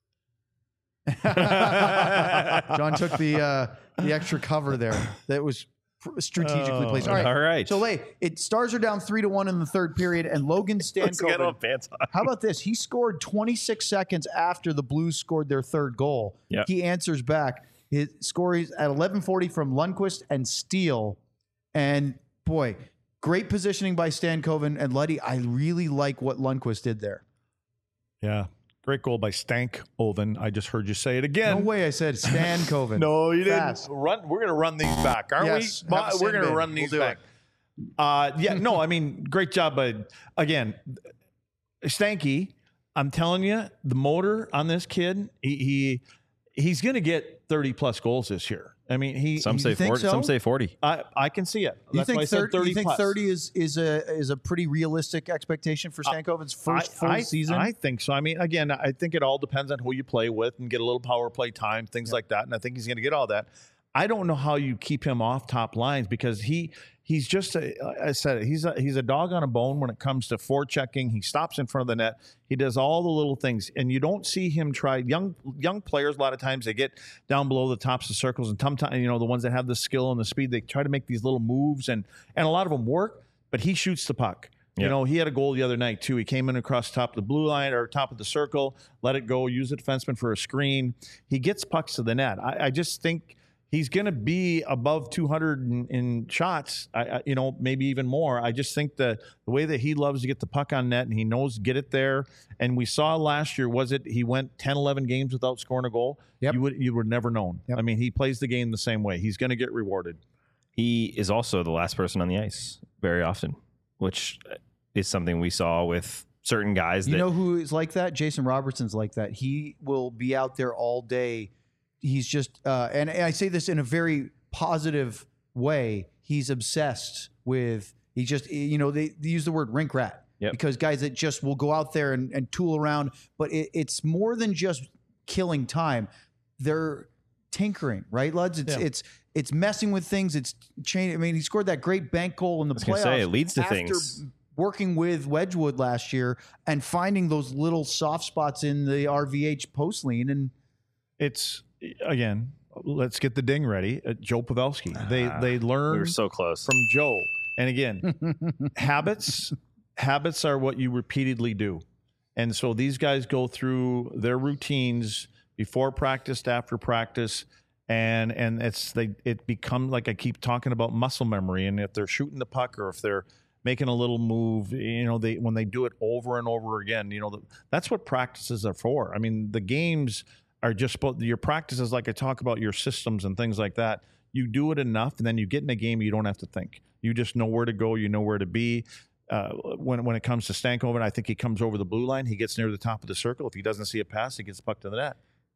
John took the uh, the extra cover there. That was pr- strategically Oh, placed. All right. all right. So, Lay, it Stars are down three to one in the third period, and Logan Let's get Stankoven. off pants on. How about this? He scored twenty-six seconds after the Blues scored their third goal. Yep. He answers back. His score is at eleven forty from Lundqvist and Steele. And boy, great positioning by Stankoven and Luddy. I really like what Lundqvist did there. yeah. Great goal by Stank Oven. I just heard you say it No again. way I said Stankoven. No, you didn't. Fast. Run. We're going to run these back, aren't Yes, we? have a We're going to sin bin. run We'll these do back. Uh, yeah, no, I mean, great job. But again, Stanky, I'm telling you, the motor on this kid, he, he he's going to get thirty plus goals this year. I mean, he. Some You say think forty. so? Some say forty. I, I can see it. You That's why I think, said thirty, thirty you think plus. thirty is, is a is a pretty realistic expectation for Stankoven's first I, full I, season? I think so. I mean, again, I think it all depends on who you play with and get a little power play time, things like that. And I think he's going to get all that. I don't know how you keep him off top lines because he he's just a, I said it, he's a, he's a dog on a bone when it comes to forechecking. He stops in front of the net. He does all the little things, and you don't see him try. Young young players a lot of times they get down below the tops of circles, and sometimes you know the ones that have the skill and the speed they try to make these little moves, and and a lot of them work. But he shoots the puck. You Yeah. know, he had a goal the other night too. He came in across top of the blue line or top of the circle, let it go, use the defenseman for a screen. He gets pucks to the net. I, I just think he's going to be above two hundred in, in shots, I, I, you know, maybe even more. I just think the, the way that he loves to get the puck on net and he knows to get it there. And we saw last year, was it he went ten, eleven games without scoring a goal? Yep. You would you would never known. Yep. I mean, he plays the game the same way. He's going to get rewarded. He is also the last person on the ice very often, which is something we saw with certain guys. You that, know who is like that? Jason Robertson's like that. He will be out there all day. He's just, uh, and, and I say this in a very positive way. He's obsessed with, he just, you know, they, they use the word rink rat Yep. because guys that just will go out there and, and tool around, but it, it's more than just killing time. They're tinkering, right, Luds? It's, Yeah. it's, it's messing with things. It's changing. I mean, he scored that great bank goal in the I was gonna playoffs. say, it leads to after things. working with Wedgwood last year and finding those little soft spots in the R V H post lean. And It's, again, let's get the ding ready. Uh, Joe Pavelski. They, Ah, they learn we were so close. from Joe. And again, habits habits are what you repeatedly do. And so these guys go through their routines before practice, after practice, and and it's they it becomes like I keep talking about muscle memory. And if they're shooting the puck or if they're making a little move, you know, they when they do it over and over again, you know, the, that's what practices are for. I mean, the games are just supposed, your practices, like I talk about your systems and things like that. You do it enough, and then you get in a game, you don't have to think. You just know where to go. You know where to be. Uh, when when it comes to Stankoven, I think he comes over the blue line. He gets near the top of the circle. If he doesn't see a pass, he gets the puck to the net.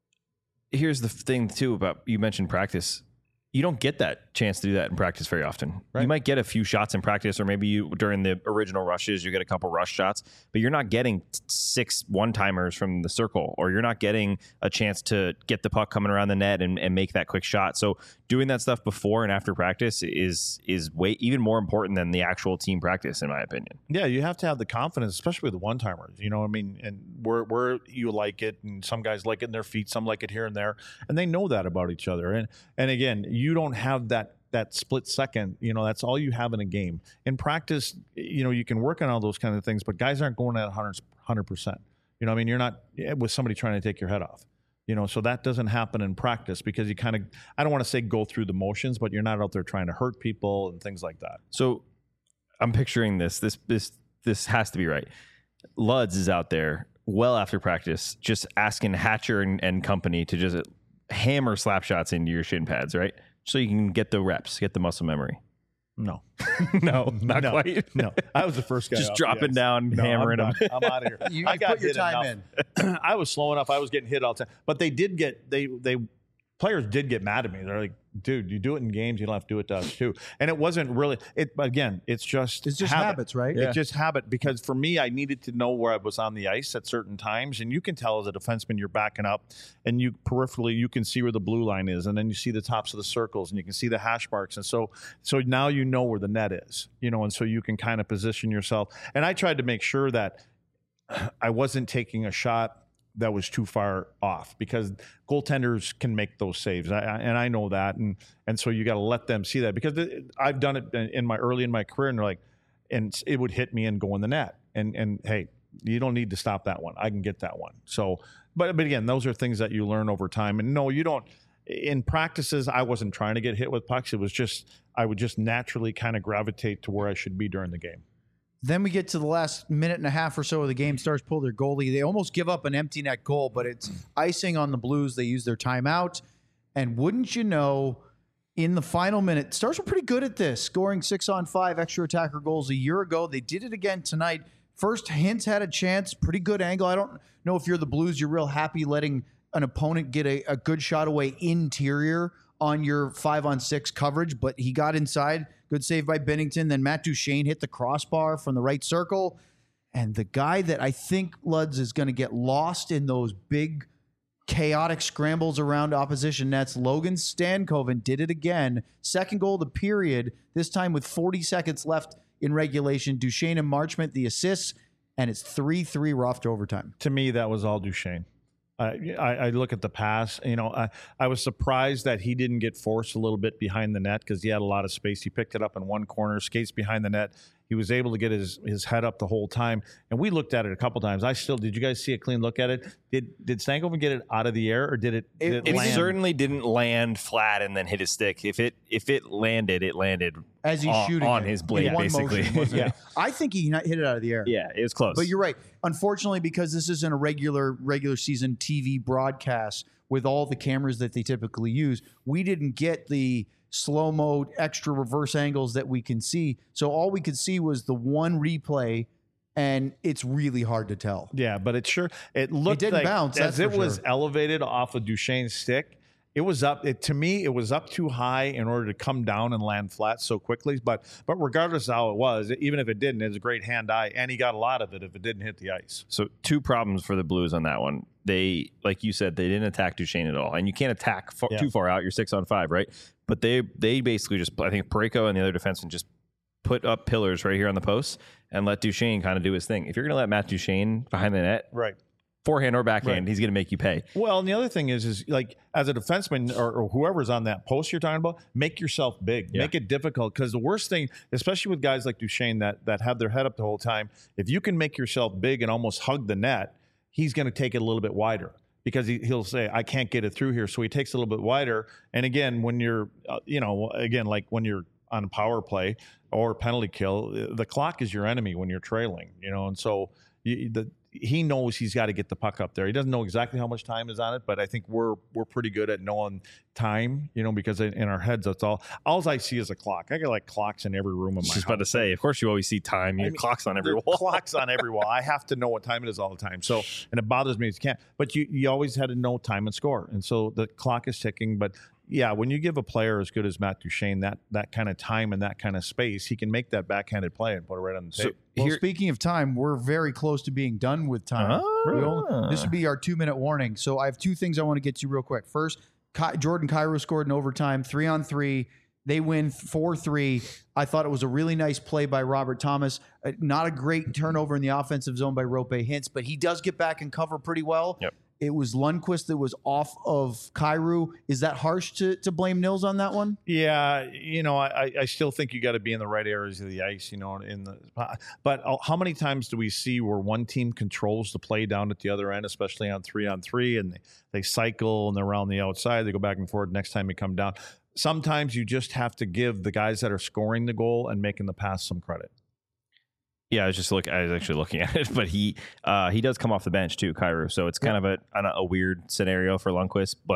Here's the thing too about, you mentioned practice. You don't get that chance to do that in practice very often. Right. You might get a few shots in practice, or maybe you during the original rushes, you get a couple rush shots, but you're not getting t- six one-timers from the circle, or you're not getting a chance to get the puck coming around the net and, and make that quick shot. So doing that stuff before and after practice is is way even more important than the actual team practice, in my opinion. Yeah, you have to have the confidence, especially with the one-timers. You know what I mean? And where where you like it, and some guys like it in their feet, some like it here and there, and they know that about each other. And and again, you don't have that that split second. You know, that's all you have in a game. In practice, you know, you can work on all those kind of things, but guys aren't going at one hundred percent. You know what I mean? You're not with somebody trying to take your head off. You know, so that doesn't happen in practice because you kind of, I don't want to say go through the motions, but you're not out there trying to hurt people and things like that. So I'm picturing this. This this this has to be right. Luds is out there well after practice, just asking Hatcher and, and company to just, hammer slap shots into your shin pads, right? So you can get the reps, get the muscle memory. No, no, not no, quite. No, I was the first guy. Just off dropping the ice. down, No, hammering I'm them. done. I'm out of here. You, I you got put your hit time enough. in. I was slow enough. I was getting hit all the time. But they did get they they players did get mad at me. They're like, dude, you do it in games, you don't have to do it to us too. And it wasn't really it. Again, it's just It's just habit. habits, right? It's just habit because for me, I needed to know where I was on the ice at certain times, and you can tell as a defenseman you're backing up, and you peripherally you can see where the blue line is, and then you see the tops of the circles, and you can see the hash marks, and so so now you know where the net is, you know, and so you can kind of position yourself. And I tried to make sure that I wasn't taking a shot that was too far off because goaltenders can make those saves, I, I, and I know that, and and so you got to let them see that because it, I've done it in my early in my career, and they're like, and it would hit me and go in the net, and and hey, you don't need to stop that one, I can get that one. So, but but again, those are things that you learn over time, and no, you don't. In practices, I wasn't trying to get hit with pucks. It was just I would just naturally kind of gravitate to where I should be during the game. Then we get to the last minute and a half or so of the game. Stars pull their goalie. They almost give up an empty net goal, but it's icing on the Blues. They use their timeout. And wouldn't you know, in the final minute, Stars were pretty good at this, scoring six on five extra attacker goals a year ago. They did it again tonight. First, Hintz had a chance, pretty good angle. I don't know if you're the Blues, you're real happy letting an opponent get a, a good shot away interior on your five on six coverage, but he got inside. Good save by Binnington. Then Matt Duchene hit the crossbar from the right circle. And the guy that I think, Luds, is going to get lost in those big, chaotic scrambles around opposition nets, Logan Stankoven did it again. Second goal of the period, this time with forty seconds left in regulation. Duchene and Marchment, the assists, and it's three three. We're off to overtime. To me, that was all Duchene. I, I, I look at the pass, you know, I, I was surprised that he didn't get forced a little bit behind the net because he had a lot of space. He picked it up in one corner, skates behind the net. He was able to get his, his head up the whole time. And we looked at it a couple times. I still, did you guys see a clean look at it? Did did Stankoven get it out of the air or did it, did it, It land? certainly didn't land flat and then hit his stick. If it if it landed, it landed As he's on, shooting on it. his In blade, one basically. motion, wasn't it? Yeah. I think he hit it out of the air. Yeah, it was close. But you're right. Unfortunately, because this isn't a regular regular season T V broadcast with all the cameras that they typically use, we didn't get the slow-mo extra reverse angles that we can see. So all we could see was the one replay, and it's really hard to tell. Yeah, but it sure, it looked didn't like bounce, as that's it for was sure. elevated off of Duchene's stick. It was up. It, to me, it was up too high in order to come down and land flat so quickly. But but regardless of how it was, even if it didn't, it was a great hand-eye, and he got a lot of it if it didn't hit the ice. So two problems for the Blues on that one. They, like you said, they didn't attack Duchene at all, and you can't attack far, Yeah. too far out. You're six on five, right? But they they basically just, I think Parayko and the other defenseman just put up pillars right here on the posts and let Duchene kind of do his thing. If you're going to let Matt Duchene behind the net, Right. forehand or backhand, Right. he's going to make you pay. Well, and the other thing is, is like as a defenseman or, or whoever's on that post you're talking about, make yourself big, Yeah. make it difficult. Because the worst thing, especially with guys like Duchene that that have their head up the whole time, if you can make yourself big and almost hug the net, he's going to take it a little bit wider because he, he'll say, "I can't get it through here," so he takes it a little bit wider. And again, when you're, uh, you know, again like when you're on power play or penalty kill, the clock is your enemy when you're trailing, you know, and so you, the. He knows he's got to get the puck up there. He doesn't know exactly how much time is on it, but I think we're we're pretty good at knowing time, you know, because in, in our heads, that's all. All I see is a clock. I got like clocks in every room of I was my just about to house. say, of course you always see time. You I have mean, clocks on every There are wall. Clocks on every wall. I have to know what time it is all the time. So, and it bothers me if you can't. But you you always had to know time and score, and so the clock is ticking. But yeah, when you give a player as good as Matt Duchene that that kind of time and that kind of space, he can make that backhanded play and put it right on the So tape. Well, here, speaking of time, we're very close to being done with time. Ah. We only- this would be our two-minute warning. So I have two things I want to get to real quick. First, Ky- Jordan Kyrou scored in overtime, three on three. They win four three. I thought it was a really nice play by Robert Thomas. Uh, not a great turnover in the offensive zone by Rope Hintz, but he does get back and cover pretty well. Yep. It was Lundqvist that was off of Kyrou. Is that harsh to, to blame Nils on that one? Yeah, you know, I, I still think you got to be in the right areas of the ice, you know, in the. But how many times do we see where one team controls the play down at the other end, especially on three on three, and they, they cycle and they're around the outside, they go back and forth. Next time you come down, sometimes you just have to give the guys that are scoring the goal and making the pass some credit. yeah, I was just look. I was actually looking at it, but he uh, he does come off the bench too, Kyrou. So it's kind of a a a weird scenario for Lundqvist, but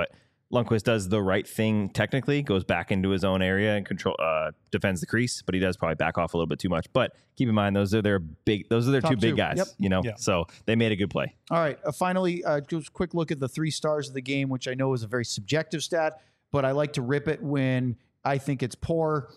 Lundqvist does the right thing technically, goes back into his own area and control uh, defends the crease, but he does probably back off a little bit too much. But keep in mind, those are their big, those are their Top two big two. guys. Yep. You know, Yeah. so they made a good play. All right. Uh, finally, uh, just a quick look at the three stars of the game, which I know is a very subjective stat, but I like to rip it when I think it's poor.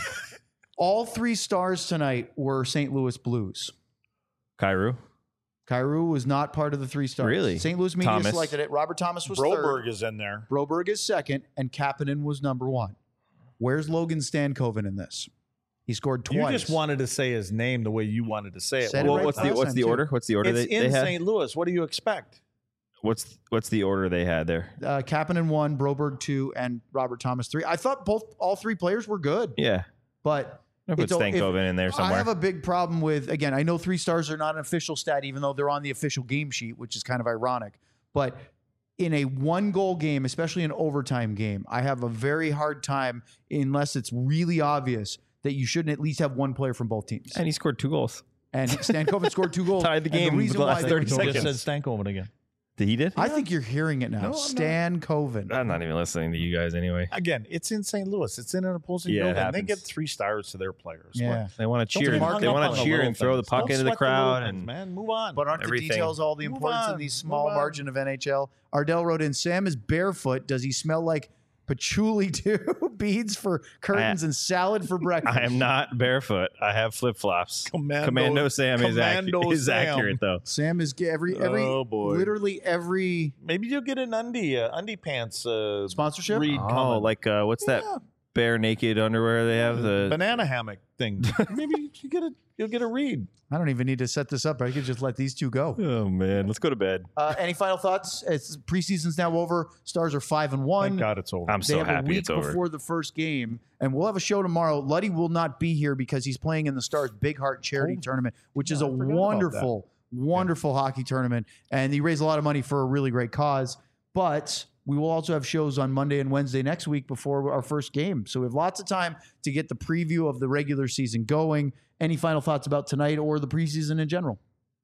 All three stars tonight were Saint Louis Blues. Cairo, Kyrou was not part of the three stars. Really? Saint Louis media Thomas. selected it. Robert Thomas was Broberg third. is in there. Broberg is second, and Kapanen was number one. Where's Logan Stankoven in this? He scored twice. You just wanted to say his name the way you wanted to say it. Said it well, right what's the last what's time, the too. order? What's the order It's they, in they had? Saint Louis. What do you expect? What's what's the order they had there? uh, Kapanen one, Broberg two, and Robert Thomas three. I thought both all three players were good, Yeah, but I put It's a- if- Stankoven in there somewhere. I have a big problem with, again, I know three stars are not an official stat, even though they're on the official game sheet, which is kind of ironic. But in a one goal game, especially an overtime game, I have a very hard time, unless it's really obvious, that you shouldn't at least have one player from both teams. and he scored two goals. And Stankoven scored two goals. Tied the And game reason with the last why thirty they- So just seconds. said Stankoven again. Did he did? I think you're hearing it now. No, I'm not. Stankoven. I'm not even listening to you guys anyway. Again, it's in Saint Louis. It's in an opposing Yeah, it building. They happens. get three stars to their players. Yeah. They want to Don't cheer. get They hung up want on to the cheer little and throw the things. puck Don't into the sweat little crowd. things, And man, move on. But aren't the Everything. details all the Move importance on. in these Move small on. margin of N H L? Ardell wrote in, Sam is barefoot. Does he smell like patchouli too? Beads for curtains and salad for breakfast. I am not barefoot. I have flip flops. Commando- Commando Sam is, Commando accu- is Sam. accurate though. Sam is ge- every every Oh, boy. literally every Maybe you'll get an undie, uh, undie pants uh, sponsorship. read Oh, coming. like uh, what's that Yeah. bare naked underwear they have? The banana hammock thing. Maybe you get a you'll get a read. I don't even need to set this up. I could just let these two go. oh man, let's go to bed. Uh, any final thoughts? It's preseason's now over. Stars are five and one. Thank God it's over. I'm They so have a happy week it's over. before the first game, and we'll have a show tomorrow. Luddy will not be here because he's playing in the Stars Big Heart Charity Oh. Tournament, which is Yeah, a I forgot about wonderful, wonderful hockey tournament, and he raised a lot of money for a really great cause. But we will also have shows on Monday and Wednesday next week before our first game, so we have lots of time to get the preview of the regular season going. Any final thoughts about tonight or the preseason in general?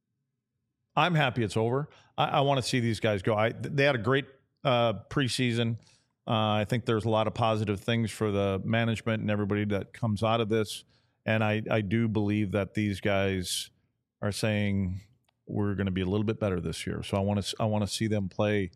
I'm happy it's over. I, I want to see these guys go. I, they had a great uh, preseason. Uh, I think there's a lot of positive things for the management and everybody that comes out of this. And I, I do believe that these guys are saying we're going to be a little bit better this year. So I want to I want to see them play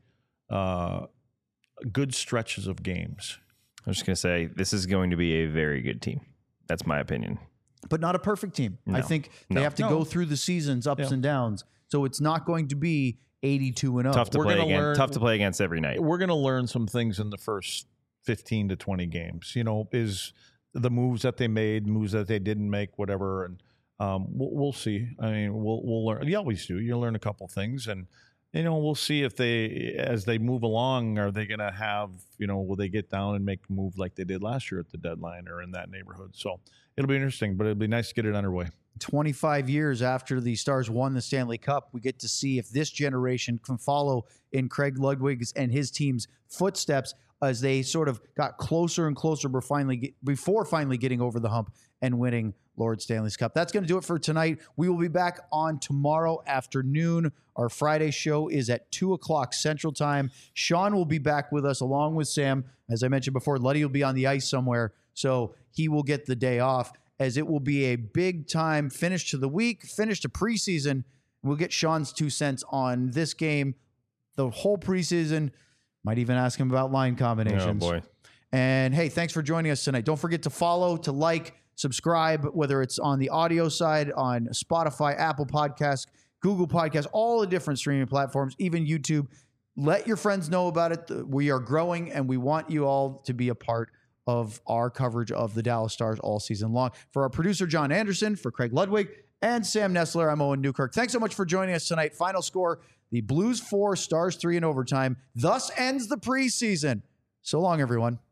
uh, good stretches of games. I'm just gonna say this is going to be a very good team. That's my opinion. But not a perfect team. I No. think they No. have to No. go through the seasons, ups Yeah. and downs. So it's not going to be eighty-two and oh. Tough to We're play gonna against. learn- Tough to play against every night. We're going to learn some things in the first fifteen to twenty games. You know, is the moves that they made, moves that they didn't make, whatever. And um, we'll, we'll see. I mean, we'll we'll learn. You always do. You learn a couple things, and you know, we'll see if they, as they move along, are they going to have, you know, will they get down and make a move like they did last year at the deadline or in that neighborhood? So it'll be interesting, but it'll be nice to get it underway. twenty-five years after the Stars won the Stanley Cup, we get to see if this generation can follow in Craig Ludwig's and his team's footsteps as they sort of got closer and closer before finally, get, before finally getting over the hump and winning Lord Stanley's Cup. That's going to do it for tonight. We will be back on tomorrow afternoon. Our Friday show is at two o'clock Central Time. Sean will be back with us along with Sam. As I mentioned before, Luddy will be on the ice somewhere, so he will get the day off, as it will be a big time finish to the week, finish to preseason. We'll get Sean's two cents on this game, the whole preseason. Might even ask him about line combinations. Oh boy. And hey, thanks for joining us tonight. Don't forget to follow, to like, subscribe, whether it's on the audio side, on Spotify, Apple Podcasts, Google Podcasts, all the different streaming platforms, even YouTube. Let your friends know about it. We are growing, and we want you all to be a part of our coverage of the Dallas Stars all season long. For our producer, John Anderson, for Craig Ludwig, and Sam Nestler, I'm Owen Newkirk. Thanks so much for joining us tonight. Final score, the Blues four, Stars three in overtime. Thus ends the preseason. So long, everyone.